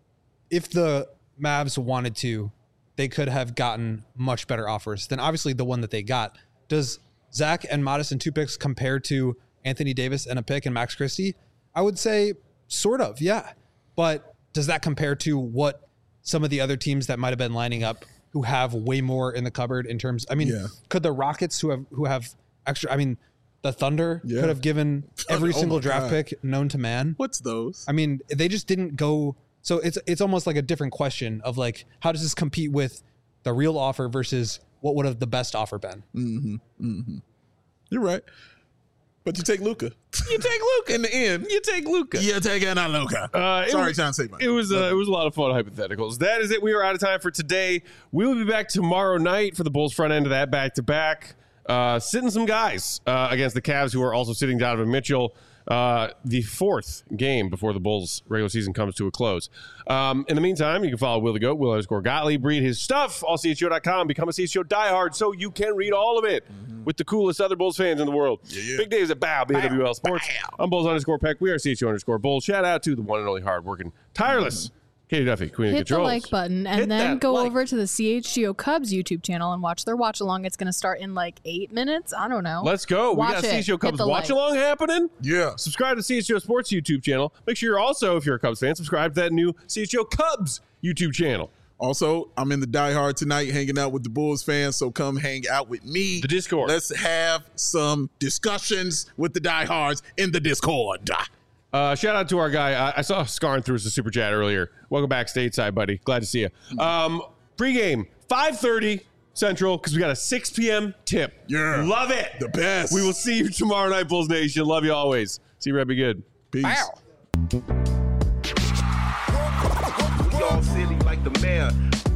if the Mavs wanted to, they could have gotten much better offers than obviously the one that they got. Does Zach and Modest and 2 picks compare to Anthony Davis and a pick and Max Christie? I would say sort of, yeah. But does that compare to what some of the other teams that might have been lining up who have way more in the cupboard in terms? I mean, could the Rockets who have extra? I mean, the Thunder could have given every single draft pick known to man. What's those? I mean, they just didn't go. So it's almost like a different question of like, how does this compete with the real offer versus what would have the best offer been? You're right. But you take Luka. You take Luka. In the end. You take Luka. You're taking out Luka. Sorry, John Saban. It was a lot of fun hypotheticals. That is it. We are out of time for today. We will be back tomorrow night for the Bulls front end of that back-to-back. Sitting some guys against the Cavs, who are also sitting Donovan Mitchell. The 4th game before the Bulls regular season comes to a close. In the meantime, you can follow Will the Goat, Will_Gottlieb, read his stuff, allCHGO.com, become a CHGO diehard so you can read all of it with the coolest other Bulls fans in the world. Big Dave's at BAW, BWL Sports. I'm Bulls_Peck. We are CHGO_Bulls. Shout out to the one and only hardworking, tireless Katie Duffy, Queen of Hit the Controls. like button and then go over to the CHGO Cubs YouTube channel and watch their watch along. It's going to start in like 8 minutes. I don't know. Let's go. Watch We got it. CHGO Hit Cubs the watch like. along happening. Yeah. Subscribe to CHGO Sports YouTube channel. Make sure you're also, if you're a Cubs fan, subscribe to that new CHGO Cubs YouTube channel. Also, I'm in the Die Hard tonight hanging out with the Bulls fans, so come hang out with me. The Discord. Let's have some discussions with the diehards in the Discord. Shout out to our guy. I saw Scarn through us a super chat earlier. Welcome back stateside, buddy. Glad to see you. Pre-game, 5:30 Central, because we got a 6 p.m. tip. Yeah. Love it. The best. We will see you tomorrow night, Bulls Nation. Love you always. See you, Red. Be good. Peace. Y'all silly like the mayor.